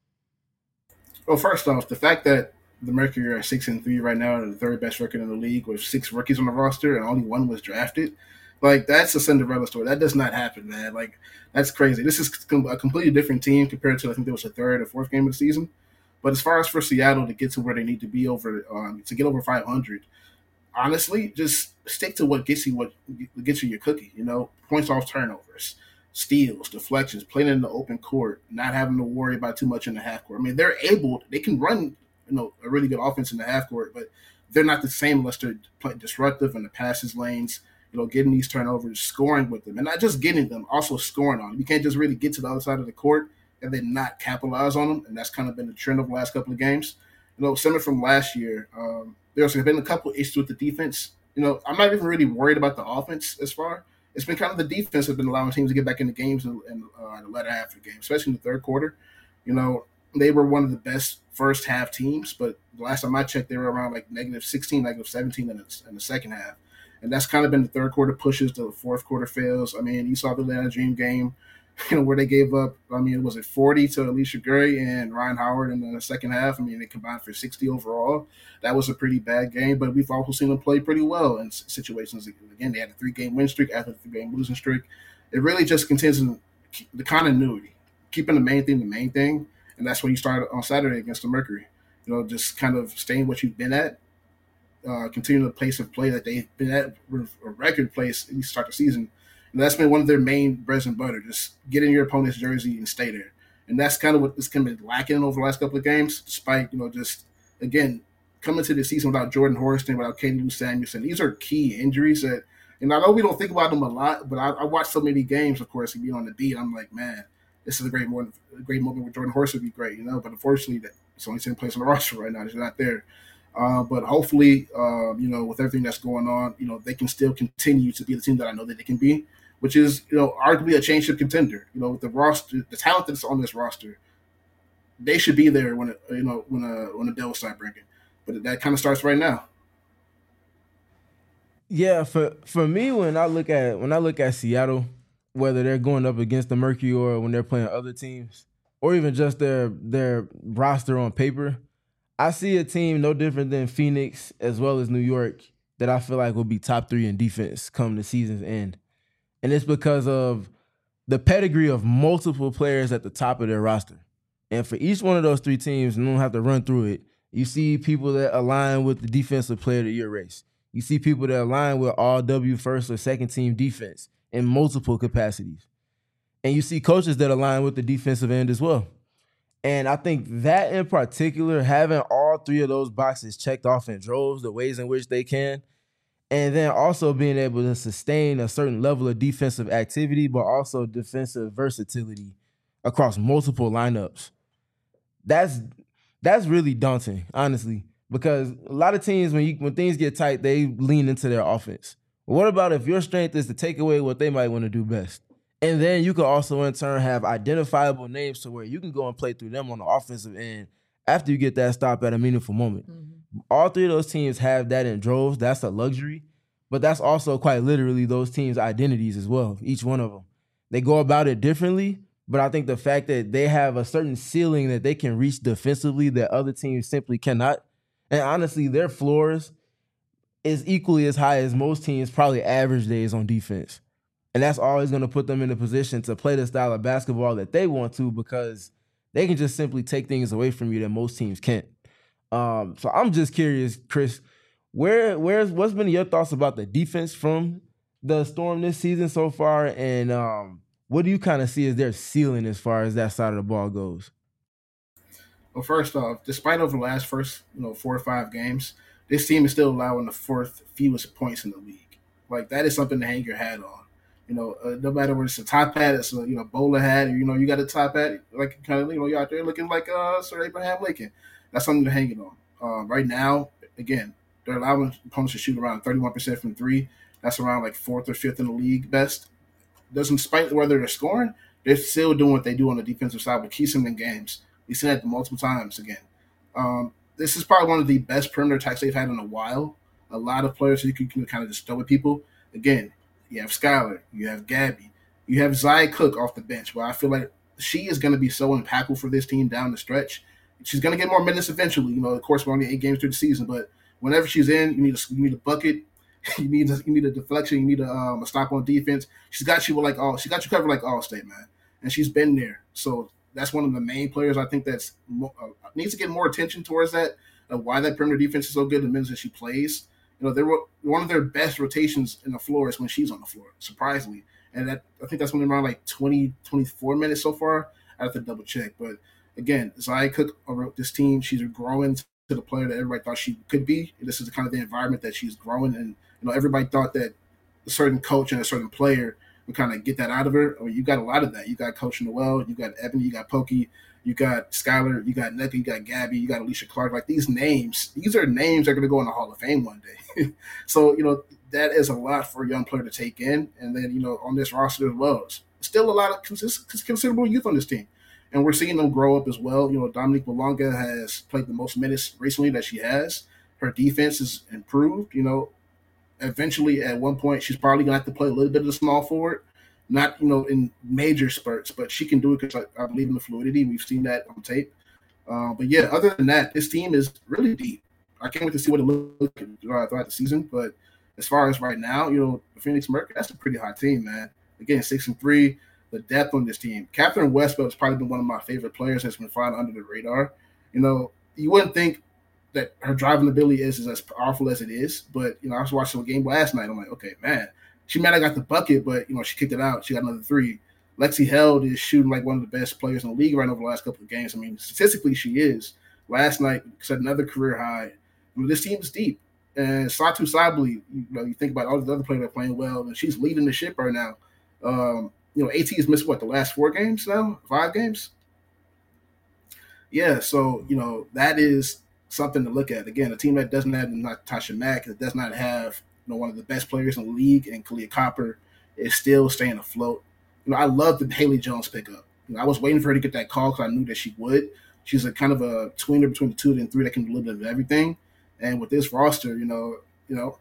Well, first off, the fact that the Mercury are six and three right now, are the third best record in the league with six rookies on the roster and only one was drafted. Like, that's a Cinderella story. That does not happen, man. Like, that's crazy. This is a completely different team compared to, I think there was the third or fourth game of the season. But as far as for Seattle to get to where they need to be over, um, to get over five hundred, honestly, just stick to what gets you what gets you your cookie. You know, points off turnovers, steals, deflections, playing in the open court, not having to worry about too much in the half court. I mean, they're able, they can run, you know, a really good offense in the half court, but they're not the same unless they're disruptive in the passes lanes. You know, getting these turnovers, scoring with them, and not just getting them, also scoring on them. You can't just really get to the other side of the court and then not capitalize on them, and that's kind of been the trend of the last couple of games. You know, similar from last year. Um, There's been a couple issues with the defense. You know, I'm not even really worried about the offense as far. it's been kind of the defense that's been allowing teams to get back into games in, in uh, the latter half of the game, especially in the third quarter. You know, they were one of the best first half teams, but the last time I checked, they were around like negative sixteen, negative seventeen in the, in the second half. And that's kind of been the third quarter pushes, the fourth quarter fails. I mean, you saw the Atlanta Dream game, you know, where they gave up, I mean, was it forty to Alicia Gray and Ryan Howard in the second half? I mean, they combined for sixty overall. That was a pretty bad game, but we've also seen them play pretty well in situations. Again, they had a three-game win streak after a three-game losing streak. It really just continues the continuity, keeping the main thing the main thing, and that's what you started on Saturday against the Mercury. You know, just kind of staying what you've been at, uh, continuing the pace of play that they've been at, a record place at the start of the season. And that's been one of their main bread and butter. Just get in your opponent's jersey and stay there. And that's kind of what this kind of been lacking over the last couple of games, despite, you know, just, again, coming to the season without Jordan Horston, without Katie Lou Samuelson. These are key injuries that, and I know we don't think about them a lot, but I, I watch so many games, of course, and be on the beat. I'm like, man, this is a great moment. A great moment with Jordan Horston would be great, you know. But unfortunately, that it's only second place on the roster right now. He's not there. Uh, but hopefully, uh, you know, with everything that's going on, you know, they can still continue to be the team that I know that they can be, which is, you know, arguably a championship contender. You know, with the roster, the talent that's on this roster, they should be there when it, you know, when a when the Devils start breaking. But that kind of starts right now. Yeah, for for me, when I look at when I look at Seattle, whether they're going up against the Mercury or when they're playing other teams, or even just their their roster on paper, I see a team no different than Phoenix as well as New York that I feel like will be top three in defense come the season's end. And it's because of the pedigree of multiple players at the top of their roster. And for each one of those three teams, and I don't have to run through it, you see people that align with the defensive player of the year race. You see people that align with all W first or second team defense in multiple capacities. And you see coaches that align with the defensive end as well. And I think that in particular, having all three of those boxes checked off in droves, the ways in which they can, and then also being able to sustain a certain level of defensive activity, but also defensive versatility across multiple lineups. That's that's really daunting, honestly, because a lot of teams, when you when things get tight, they lean into their offense. But what about if your strength is to take away what they might want to do best? And then you could also, in turn, have identifiable names to where you can go and play through them on the offensive end after you get that stop at a meaningful moment. Mm-hmm. All three of those teams have that in droves. That's a luxury. But that's also quite literally those teams' identities as well, each one of them. They go about it differently, but I think the fact that they have a certain ceiling that they can reach defensively that other teams simply cannot, and honestly, their floors is equally as high as most teams' probably average days on defense. And that's always going to put them in a position to play the style of basketball that they want to, because they can just simply take things away from you that most teams can't. Um, so I'm just curious, Chris, where where's what's been your thoughts about the defense from the Storm this season so far, and um, what do you kind of see as their ceiling as far as that side of the ball goes? Well, first off, despite over the last first you know four or five games, this team is still allowing the fourth fewest points in the league. Like, that is something to hang your hat on. You know, uh, no matter whether it's a top hat, it's a you know bowler hat, or you know you got a top hat, like kind of you know you're out there looking like uh, Sir Abraham Lincoln. That's something to hang it on. Uh, right now, again, they're allowing opponents to shoot around thirty-one percent from three. That's around like fourth or fifth in the league best. Doesn't spite whether they're scoring, they're still doing what they do on the defensive side, which keeps them in games. We've seen that multiple times again. Um, this is probably one of the best perimeter attacks they've had in a while. A lot of players who you can, can kind of just throw at people. Again, you have Skylar, you have Gabby, you have Zia Cook off the bench, where I feel like she is going to be so impactful for this team down the stretch. She's going to get more minutes eventually. You know, of course, we're only eight games through the season, but whenever she's in, you need a you need a bucket, you need a, you need a deflection, you need a, um, a stop on defense. She's got you like all she got you covered like Allstate, man, and she's been there. So that's one of the main players I think that's uh, needs to get more attention towards that. Uh, why that perimeter defense is so good, the minutes that she plays. You know, they were one of their best rotations in the floor is when she's on the floor, surprisingly. And that I think that's when they're around like twenty, twenty-four minutes so far. I have to double check. But again, Zia Cook wrote this team. She's growing to the player that everybody thought she could be. This is the kind of the environment that she's growing. And, you know, everybody thought that a certain coach and a certain player would kind of get that out of her. I mean, you got a lot of that. You got Coach Noel, you got Ebony, you got Pokey, you got Skylar, you got Nneka, you got Gabby, you got Alicia Clark. Like, these names, these are names that are going to go in the Hall of Fame one day. So, you know, that is a lot for a young player to take in. And then, you know, on this roster as well, it's still a lot of consist- considerable youth on this team. And we're seeing them grow up as well. You know, Dominique Malonga has played the most minutes recently that she has. Her defense has improved. You know, eventually at one point she's probably going to have to play a little bit of the small forward. Not, you know, in major spurts, but she can do it because I, I believe in the fluidity. We've seen that on tape. Uh, but, yeah, other than that, this team is really deep. I can't wait to see what it looks like throughout the season. But as far as right now, you know, the Phoenix Mercury, that's a pretty hot team, man. Again, six and three. The depth on this team. Catherine Westbrook has probably been one of my favorite players that's been flying under the radar. You know, you wouldn't think that her driving ability is, is as powerful as it is, but, you know, I was watching a game last night. I'm like, okay, man, she might have got the bucket, but, you know, she kicked it out. She got another three. Lexi Held is shooting like one of the best players in the league right now over the last couple of games. I mean, statistically, she is. Last night, set another career high. I mean, this team is deep. And Satu Sabli, you know, you think about all the other players that are playing well, and she's leading the ship right now. Um, You know, AT has missed, what, the last four games now? Five games? Yeah, so, you know, that is something to look at. Again, a team that doesn't have Natasha Mack, that does not have, you know, one of the best players in the league, and Kalia Copper is still staying afloat. You know, I love the Haley Jones pickup. You know, I was waiting for her to get that call because I knew that she would. She's a kind of a tweener between the two and three that can do a little bit of everything. And with this roster, you know, you know,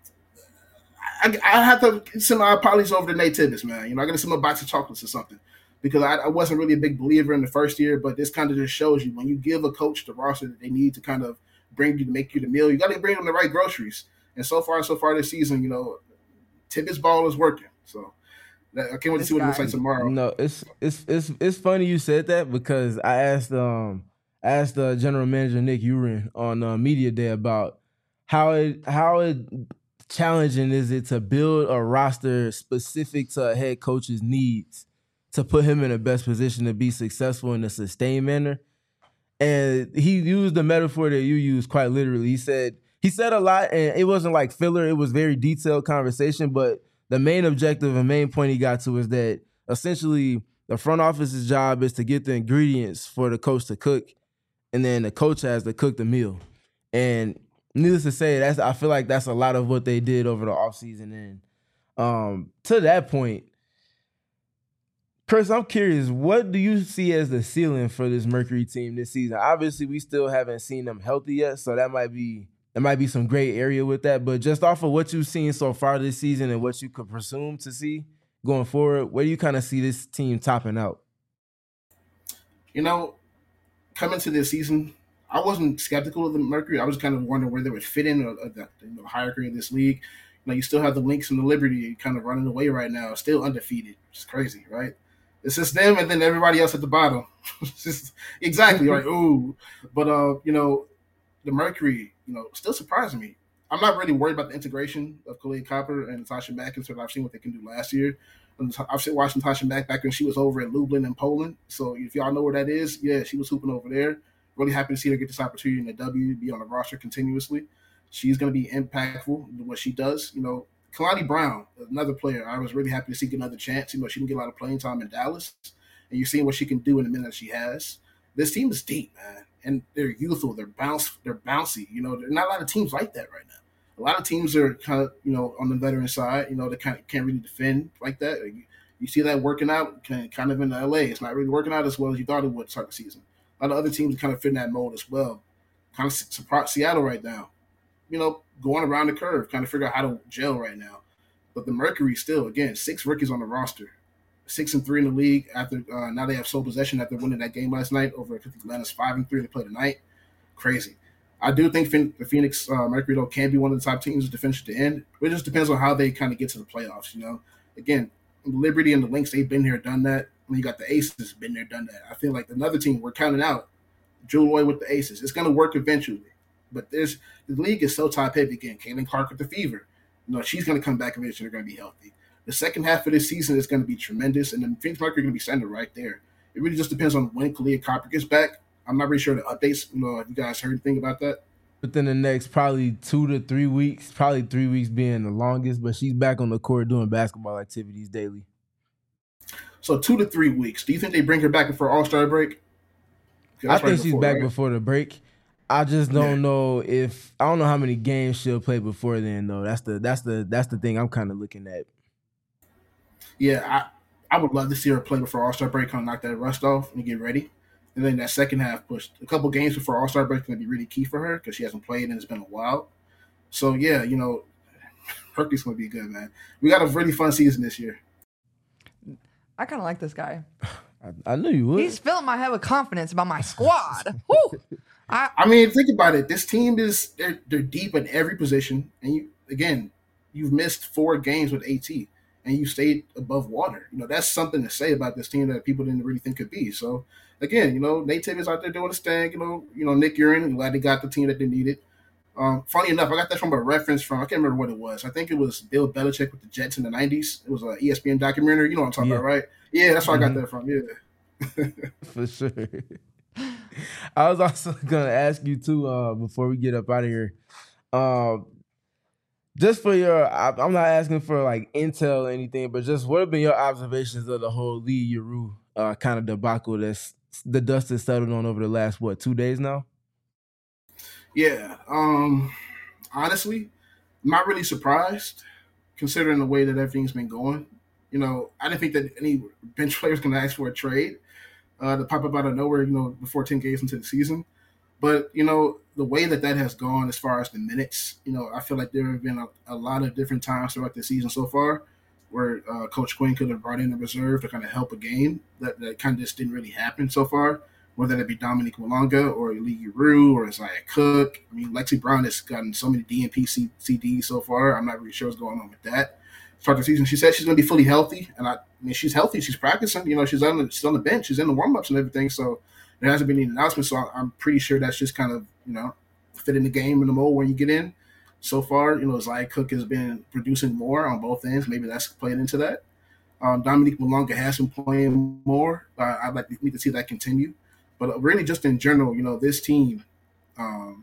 I, I have to send my apologies over to Nate Tibbetts, man. You know, I got to send him a box of chocolates or something because I, I wasn't really a big believer in the first year, but this kind of just shows you when you give a coach the roster that they need to kind of bring you to make you the meal, you got to bring them the right groceries. And so far, so far this season, you know, Tibbetts' ball is working. So that, I can't wait to see what it looks like tomorrow. No, it's it's it's it's funny you said that because I asked um I asked the uh, general manager Nick Urin on uh, media day about how it how it. challenging is it to build a roster specific to a head coach's needs to put him in the best position to be successful in a sustained manner? And he used the metaphor that you used quite literally. He said he said a lot, and it wasn't like filler. It was very detailed conversation, but the main objective and main point he got to is that essentially the front office's job is to get the ingredients for the coach to cook, and then the coach has to cook the meal. And needless to say, that's I feel like that's a lot of what they did over the offseason. And um, to that point, Chris, I'm curious, what do you see as the ceiling for this Mercury team this season? Obviously, we still haven't seen them healthy yet, so that might be there might be some gray area with that. But just off of what you've seen so far this season and what you could presume to see going forward, where do you kind of see this team topping out? You know, coming to this season, I wasn't skeptical of the Mercury. I was kind of wondering where they would fit in uh, the, the hierarchy of this league. You know, you still have the Lynx and the Liberty kind of running away right now, still undefeated. It's crazy, right? It's just them and then everybody else at the bottom. It's just exactly like, ooh. But, uh, you know, the Mercury, you know, still surprising me. I'm not really worried about the integration of Kalia Copper and Natasha Mack until I've seen what they can do last year. I've watched Natasha Mack back when she was over in Lublin in Poland. So if y'all know where that is, yeah, she was hooping over there. Really happy to see her get this opportunity in the W, be on the roster continuously. She's going to be impactful in what she does. You know, Kalani Brown, another player, I was really happy to see get another chance. You know, she didn't get a lot of playing time in Dallas, and you're seeing what she can do in the minute she has. This team is deep, man, and they're youthful. They're bounce, they're bouncy. You know, there's not a lot of teams like that right now. A lot of teams are kind of, you know, on the veteran side. You know, they kind of can't really defend like that. You, you see that working out kind of in L A. It's not really working out as well as you thought it would start the season. A lot of other teams kind of fit in that mold as well. Kind of surprised Seattle right now. You know, going around the curve, kind of figure out how to gel right now. But the Mercury still, again, six rookies on the roster. Six and three in the league after uh, now they have sole possession after winning that game last night over Atlanta's five and three. They play tonight. Crazy. I do think the Phoenix uh, Mercury, though, can be one of the top teams to finish at the end. It just depends on how they kind of get to the playoffs, you know. Again, Liberty and the Lynx, they've been here, done that. When you got the Aces, been there, done that. I feel like another team we're counting out, Jewel Loy with the Aces. It's going to work eventually. But there's the league is so top heavy again. Caitlin Clark with the Fever. You know, she's going to come back eventually. They're going to be healthy. The second half of this season is going to be tremendous. And then Phoenix Mercury are going to be standing right there. It really just depends on when Kalia Copper gets back. I'm not really sure the updates. You know, have you guys heard anything about that? Within the next probably two to three weeks, probably three weeks being the longest, but she's back on the court doing basketball activities daily. So two to three weeks. Do you think they bring her back before All-Star break? I think right she's before, back right? before the break. I just don't Yeah. know if I don't know how many games she'll play before then though. That's the that's the that's the thing I'm kind of looking at. Yeah, I, I would love to see her play before All Star break, kind of knock that rust off and get ready. And then that second half push, a couple games before All Star break is going to be really key for her because she hasn't played and it's been a while. So yeah, you know, Hercules going to be good, man. We got a really fun season this year. I kind of like this guy. I, I knew you would. He's filling my head with confidence about my squad. Woo! I, I mean, think about it. This team is they're, they're deep in every position, and you again, you've missed four games with AT, and you stayed above water. You know that's something to say about this team that people didn't really think could be. So again, you know, Nate Tibbetts out there doing his thing. You know, you know Nick Urin, glad they got the team that they needed. Um, funny enough, I got that from a reference from I can't remember what it was. I think it was Bill Belichick with the Jets in the nineties. It was an E S P N documentary. You know what I'm talking Yeah. about, right? Yeah, that's where Mhm. I got that from. Yeah. For sure. I was also gonna ask you too, uh, before we get up out of here. Um, just for your I, I'm not asking for like intel or anything, but just what have been your observations of the whole Lee Yuru uh kind of debacle that's the dust has settled on over the last what, two days now? Yeah. Um, honestly, I'm not really surprised considering the way that everything's been going. You know, I didn't think that any bench players can ask for a trade uh, to pop up out of nowhere, you know, before ten games into the season. But, you know, the way that that has gone as far as the minutes, you know, I feel like there have been a, a lot of different times throughout the season so far where uh, Coach Quinn could have brought in a reserve to kind of help a game. That, that kind of just didn't really happen so far, whether it be Dominique Malonga or Lee Rue or Isaiah Cook. I mean, Lexi Brown has gotten so many D N P C Ds so far. I'm not really sure what's going on with that. Start the season, she said she's going to be fully healthy, and I, I mean, she's healthy. She's practicing. You know, she's on the she's on the bench. She's in the warm ups and everything. So there hasn't been any announcements. So I'm pretty sure that's just kind of you know fit in the game in the mold when you get in. So far, you know, Isaiah Cook has been producing more on both ends. Maybe that's playing into that. Um, Dominique Malonga has been playing more. Uh, I'd like to, need to see that continue. But really, just in general, you know, this team, um,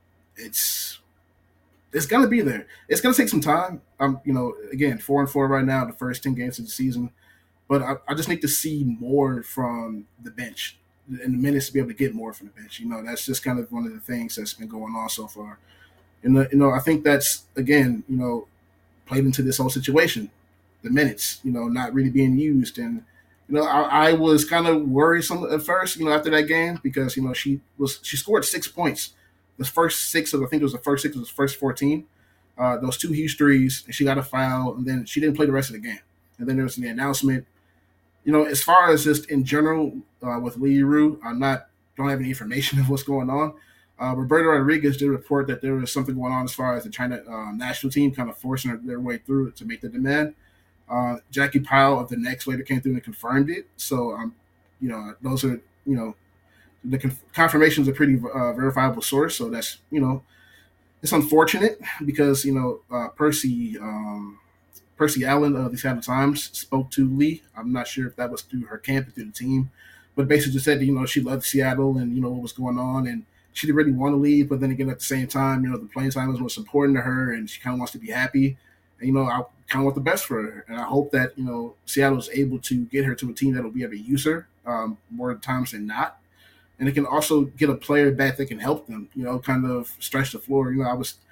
it's it's gonna be there. It's gonna take some time. Um, you know, again, four and four right now, the first ten games of the season. But I, I just need to see more from the bench and the minutes to be able to get more from the bench. You know, that's just kind of one of the things that's been going on so far. And you know, I think that's again, you know, played into this whole situation. The minutes, you know, not really being used, and you know, I, I was kind of worrisome at first, you know, after that game because you know she was she scored six points, the first six of I think it was the first six of the first fourteen, uh, those two huge threes, and she got a foul, and then she didn't play the rest of the game, and then there was the announcement. You know, as far as just in general uh, with Lee Rue, I'm not don't have any information of what's going on. Uh, Roberto Rodriguez did report that there was something going on as far as the China uh, national team kind of forcing their, their way through to make the demand. Uh, Jackie Powell of the Knicks later came through and confirmed it. So, um, you know, those are, you know, the conf- confirmations are pretty uh, verifiable source. So that's, you know, it's unfortunate because, you know, uh, Percy um, Percy Allen of the Seattle Times spoke to Lee. I'm not sure if that was through her camp or through the team, but basically just said, that, you know, she loved Seattle and, you know, what was going on. And she didn't really want to leave. But then again, at the same time, you know, the playing time is what's important to her and she kind of wants to be happy. And, you know, I kind of want the best for her. And I hope that, you know, Seattle is able to get her to a team that will be able to use her um, more times than not. And it can also get a player back that can help them, you know, kind of stretch the floor. You know, I was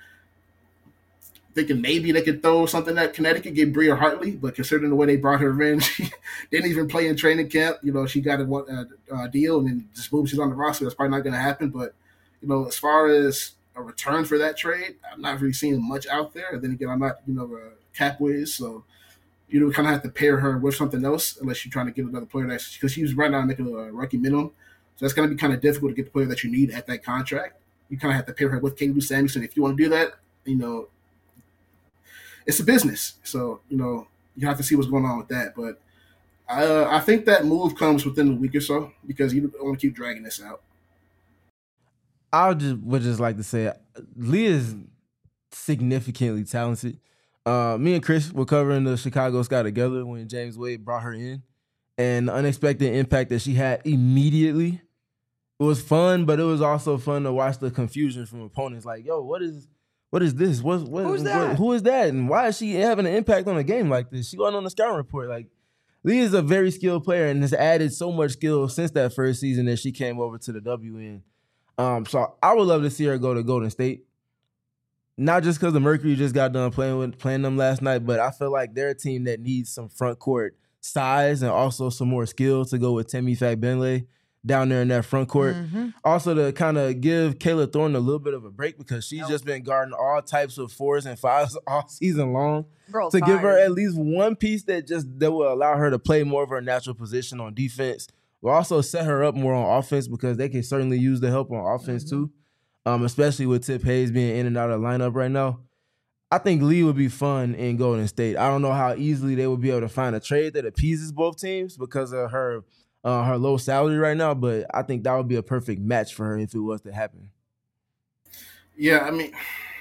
thinking maybe they could throw something at Connecticut, get Bria Hartley, but considering the way they brought her in, she didn't even play in training camp. You know, she got a, a, a deal and then just boom, she's on the roster. That's probably not going to happen. But, you know, as far as a return for that trade, I'm not really seeing much out there. And then again, I'm not, you know, a cap whiz, so you know, kind of have to pair her with something else unless you're trying to get another player that's because she's right now making a rookie minimum. So that's going to be kind of difficult to get the player that you need at that contract. You kind of have to pair her with Katie Lou Samuelson. If you want to do that, you know, it's a business. So, you know, you have to see what's going on with that. But uh, I think that move comes within a week or so because you don't want to keep dragging this out. I just would just like to say Lee is significantly talented. Uh, me and Chris were covering the Chicago Sky together when James Wade brought her in, and the unexpected impact that she had immediately. It was fun, but it was also fun to watch the confusion from opponents. Like, yo, what is, what is this? What, what, Who's that? What, who is that? And why is she having an impact on a game like this? She going on the scouting report. Like, Lee is a very skilled player and has added so much skill since that first season that she came over to the W N. Um, so I would love to see her go to Golden State. Not just because the Mercury just got done playing with playing them last night, but I feel like they're a team that needs some front court size and also some more skill to go with Temi Fagbenle down there in that front court. Mm-hmm. Also to kind of give Kayla Thornton a little bit of a break because she's Nope. just been guarding all types of fours and fives all season long. Girl's to give her tired. at least one piece that just that will allow her to play more of her natural position on defense. Will also set her up more on offense because they can certainly use the help on offense Mm-hmm. too. Um, especially with Tip Hayes being in and out of the lineup right now. I think Lee would be fun in Golden State. I don't know how easily they would be able to find a trade that appeases both teams because of her uh, her low salary right now, but I think that would be a perfect match for her if it was to happen. Yeah, I mean,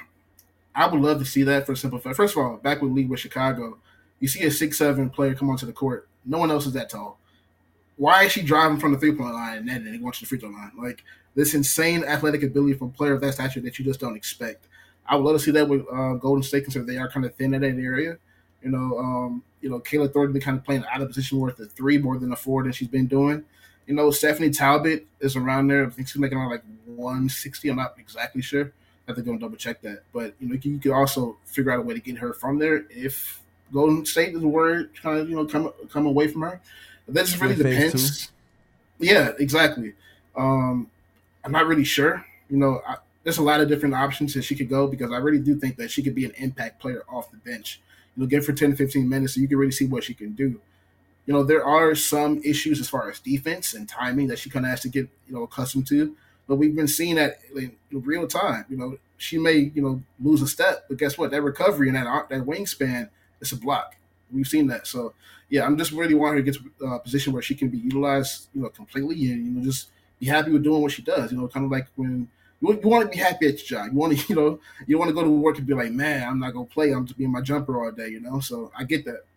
I would love to see that for a simple fact. First of all, back with Lee with Chicago, you see a six seven player come onto the court. No one else is that tall. Why is she driving from the three-point line and then going to the free throw line? Like, this insane athletic ability from a player of that stature that you just don't expect. I would love to see that with uh, Golden State, considering they are kind of thin in that area. You know, um, you know, Kayla Thornton been kind of playing out of position more at the three more than the four than she's been doing. You know, Stephanie Talbot is around there. I think she's making around like one sixty. I'm not exactly sure. I have to go and double check that. But you know, you could also figure out a way to get her from there if Golden State is worried, kind of you know come come away from her. But that just really Phase depends. Two. Yeah, exactly. Um, I'm not really sure. You know, I, there's a lot of different options that she could go because I really do think that she could be an impact player off the bench. You know, give her ten to fifteen minutes so you can really see what she can do. You know, there are some issues as far as defense and timing that she kind of has to get, you know, accustomed to. But we've been seeing that in real time. You know, she may, you know, lose a step, but guess what? That recovery and that that wingspan is a block. We've seen that. So, yeah, I'm just really wanting her to get to a position where she can be utilized, you know, completely and, you know, just be happy with doing what she does. You know, kind of like when you, you want to be happy at your job. You want to, you know, you want to go to work and be like, man, I'm not going to play. I'm just being my jumper all day, you know. So I get that.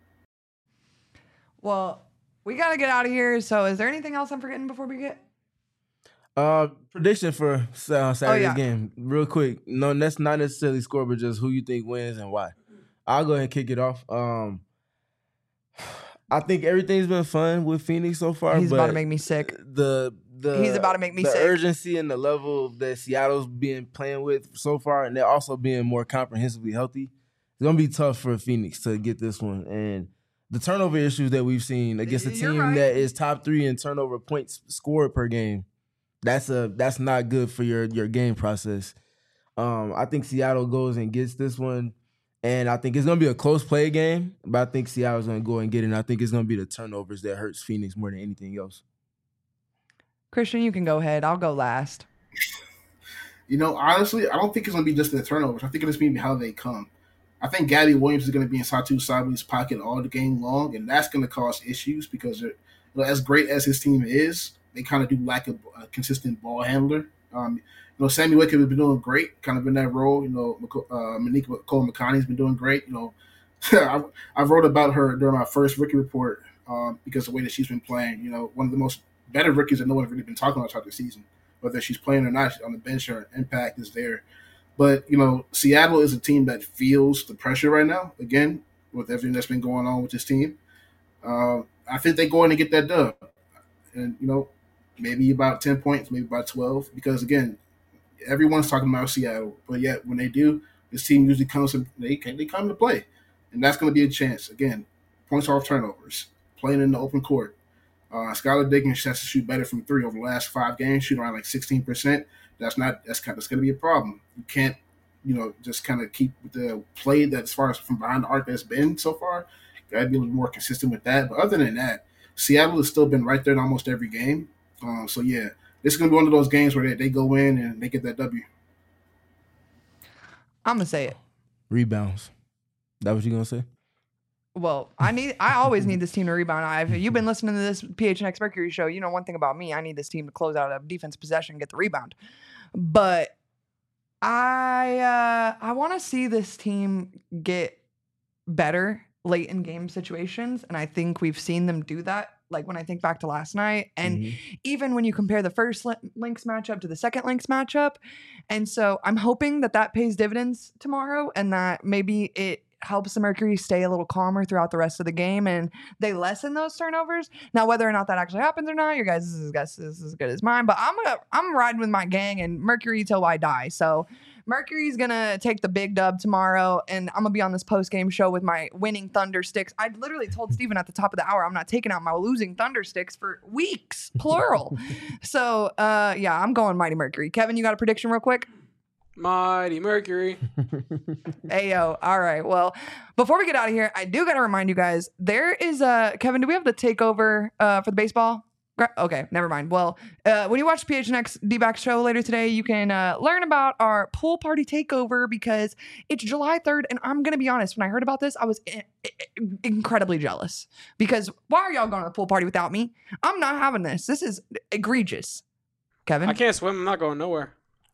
Well, we got to get out of here. So is there anything else I'm forgetting before we get? Uh, prediction for uh, Saturday's oh, yeah. game, real quick. No, that's not necessarily score, but just who you think wins and why. I'll go ahead and kick it off. Um, I think everything's been fun with Phoenix so far. He's but about to make me sick. The the He's about to make me the sick. urgency and the level that Seattle's been playing with so far, and they're also being more comprehensively healthy. It's gonna be tough for Phoenix to get this one, and the turnover issues that we've seen against a You're team right. that is top three in turnover points scored per game. That's a that's not good for your your game process. Um, I think Seattle goes and gets this one, and I think it's gonna be a close play game. But I think Seattle's gonna go and get it. And I think it's gonna be the turnovers that hurts Phoenix more than anything else. Christian, you can go ahead. I'll go last. You know, honestly, I don't think it's gonna be just the turnovers. I think it's gonna be how they come. I think Gabby Williams is gonna be in Satu Sabu's pocket all the game long, and that's gonna cause issues because you know, as great as his team is, they kind of do lack a, a consistent ball handler. Um, you know, Sammy Wickett has been doing great, kind of in that role. You know, uh, Monique Cole McConney has been doing great. You know, I, I wrote about her during my first rookie report um, because of the way that she's been playing. You know, one of the most better rookies that no one's really been talking about throughout the season. Whether she's playing or not, she's on the bench, her impact is there. But, you know, Seattle is a team that feels the pressure right now, again, with everything that's been going on with this team. Uh, I think they go in and get that dub. And, you know, maybe about ten points, maybe about twelve. Because, again, everyone's talking about Seattle. But yet, when they do, this team usually comes to, they, they come to play. And that's going to be a chance. Again, points off turnovers, playing in the open court. Uh, Skylar Diggins has to shoot better from three over the last five games, shooting around like sixteen percent. That's not that's kind of, that's going to be a problem. You can't, you know, just kind of keep the play that as far as from behind the arc that's been so far. Got to be a little more consistent with that. But other than that, Seattle has still been right there in almost every game. Uh, so yeah, this is going to be one of those games where they, they go in and they get that W. I'm gonna say it. Rebounds. That what you gonna say? Well, I need. I always need this team to rebound. I've, you've been listening to this P H N X Mercury show. You know one thing about me. I need this team to close out a defense possession and get the rebound. But I uh, I want to see this team get better late in game situations, and I think we've seen them do that. Like when I think back to last night, and Mhm. even when you compare the first Lynx matchup to the second Lynx matchup, and so I'm hoping that that pays dividends tomorrow, and that maybe it helps the Mercury stay a little calmer throughout the rest of the game, and they lessen those turnovers. Now, whether or not that actually happens or not, your guys' guess is as good as mine. But I'm gonna I'm riding with my gang and Mercury till I die. So Mercury's gonna take the big dub tomorrow, and I'm gonna be on this post game show with my winning Thunder sticks. I literally told Steven at the top of the hour I'm not taking out my losing Thunder sticks for weeks, plural. so uh, yeah, I'm going Mighty Mercury. Kevin, you got a prediction real quick? Mighty Mercury. Ayo. All right. Well, before we get out of here, I do got to remind you guys, there is a, Kevin, do we have the takeover uh, for the baseball? Gra- Okay, never mind. Well, uh, when you watch P H N X D-Back show later today, you can uh, learn about our pool party takeover because it's July third. And I'm going to be honest, when I heard about this, I was I- I- incredibly jealous because why are y'all going to the pool party without me? I'm not having this. This is egregious. Kevin? I can't swim. I'm not going nowhere.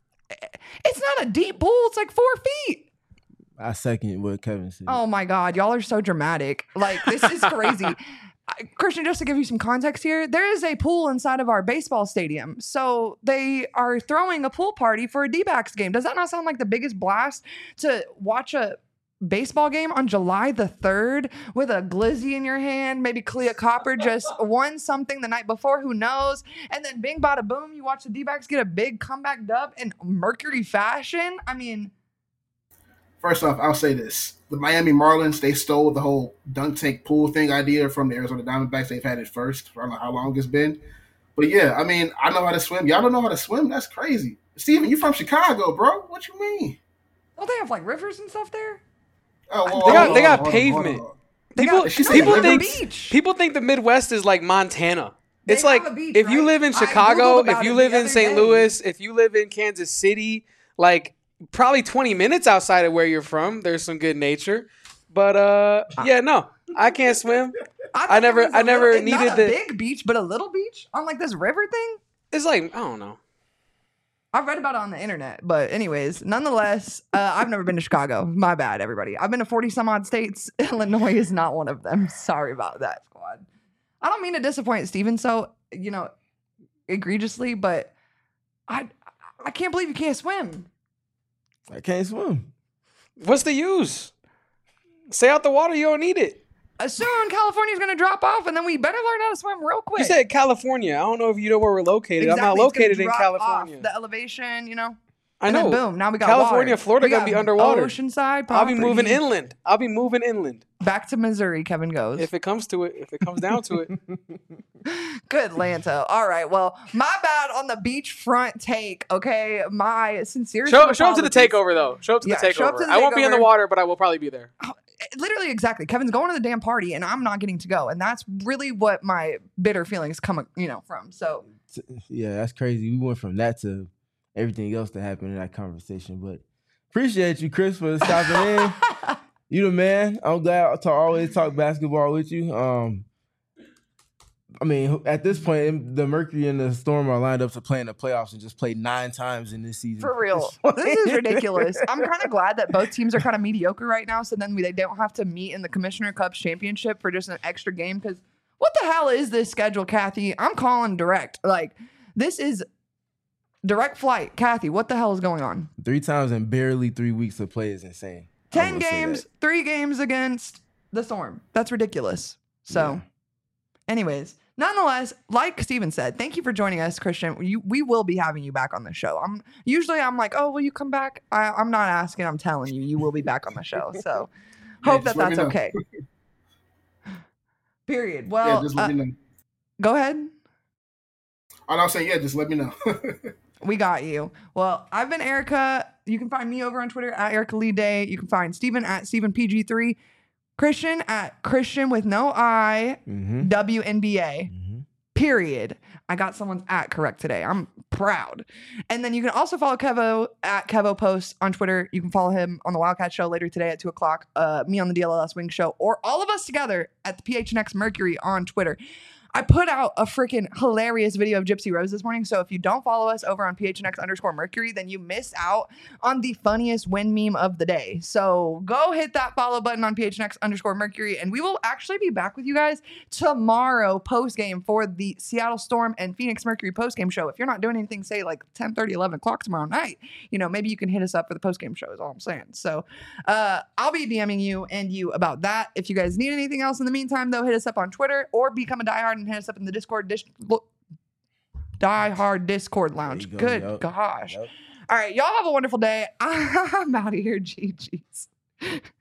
It's not a deep pool. It's like four feet. I second what Kevin said. Oh my God. Y'all are so dramatic. Like, this is crazy. I- Christian, just to give you some context here, there is a pool inside of our baseball stadium. So they are throwing a pool party for a D-backs game. Does that not sound like the biggest blast to watch a baseball game on July the third with a glizzy in your hand? Maybe Clea Copper just won something the night before, who knows? And then bing bada boom, you watch the D-backs get a big comeback dub in Mercury fashion. I mean, First off, I'll say this. The Miami Marlins, they stole the whole dunk tank pool thing idea from the Arizona Diamondbacks. They've had it first. I don't know how long it's been. But yeah, I mean, I know how to swim. Y'all don't know how to swim? That's crazy. Steven, you from Chicago, bro. What you mean? don't they have like rivers and stuff there? Oh, well, They got- hold they on, got hold on, pavement. hold on. They People, got- She said people River think Beach. people think the Midwest is like Montana. They It's like have a beach, if you right? live in I Chicago, Googled if about you it live the in other Saint day. Louis, if you live in Kansas City, like probably twenty minutes outside of where you're from, there's some good nature. But uh, yeah, no, I can't swim. thought I there never- was a I never little- needed not a the- big beach, but a little beach on like this river thing. It's like I don't know. I've read about it on the internet, but anyways, nonetheless, uh, I've never been to Chicago. My bad, everybody. I've been to forty some odd states. Illinois is not one of them. Sorry about that, squad. I don't mean to disappoint Steven so, you know, egregiously, but I I can't believe you can't swim. I can't swim. What's the use? Stay out the water. You don't need it. Uh, Soon California's going to drop off, and then we better learn how to swim real quick. You said California. I don't know if you know where we're located. I'm not Exactly, it's gonna located in drop California. off the elevation, you know. I And know. then boom, now we got California, water. Florida We gonna got be underwater. Oceanside. I'll be moving property. inland. I'll be moving inland Back to Missouri, Kevin goes. if it comes to it. If it comes down to it. Good Lanto. All right. Well, my bad on the beachfront take. Okay. My sincere Show, show up to the apologies. takeover though. Show up to Yeah, the show up takeover. to the I won't be in the takeover. water, but I will probably be there. Literally, exactly. Kevin's going to the damn party, and I'm not getting to go, and that's really what my bitter feelings come, you know, from. So Yeah, that's crazy. We went from that to everything else that happened in that conversation. But appreciate you, Chris, for stopping in. You the man. I'm glad to always talk basketball with you. Um, I mean, at this point, the Mercury and the Storm are lined up to play in the playoffs and just play nine times in this season. for real, this is ridiculous. I'm kind of glad that both teams are kind of mediocre right now, so then we, they don't have to meet in the Commissioner Cups championship for just an extra game. Because what the hell is this schedule, Kathy? I'm calling direct. Like, this is direct flight. Kathy, what the hell is going on? Three times in barely three weeks of play is insane. I Ten will say games, that. three games against the Storm. That's ridiculous. So, Yeah. anyways, nonetheless, like Steven said, thank you for joining us, Christian. You, we will be having you back on the show. I'm usually I'm like, oh, will you come back? I, I'm not asking. I'm telling you, you will be back on the show. So, Yeah, hope just that let me that's know. okay. Period. Yeah, Well, just let uh, me know. go ahead. All I'm saying, yeah, just let me know. We got you. Well, I've been Erica. You can find me over on Twitter at Erica Lee Day. You can find Steven at Steven P G three. Christian at Christian with no I, Mhm. W N B A. Mhm. Period. I got someone's at correct today. I'm proud. And then you can also follow Kevo at Kevo Post on Twitter. You can follow him on the Wildcat Show later today at two o'clock. Uh, me on the D L L S Wing Show, or all of us together at the P H N X Mercury on Twitter. I put out a freaking hilarious video of Gypsy Rose this morning. So if you don't follow us over on P H N X underscore Mercury, then you miss out on the funniest win meme of the day. So go hit that follow button on P H N X underscore Mercury, and we will actually be back with you guys tomorrow post game for the Seattle Storm and Phoenix Mercury post game show. If you're not doing anything, say like ten thirty, eleven o'clock tomorrow night, you know, maybe you can hit us up for the post game show is all I'm saying. So uh, I'll be DMing you and you about that. If you guys need anything else in the meantime, though, hit us up on Twitter or become a diehard and hit us up in the Discord dish, Die Hard Discord lounge. Go, Good yep, gosh. Yep. All right, y'all have a wonderful day. I'm out of here, G G's.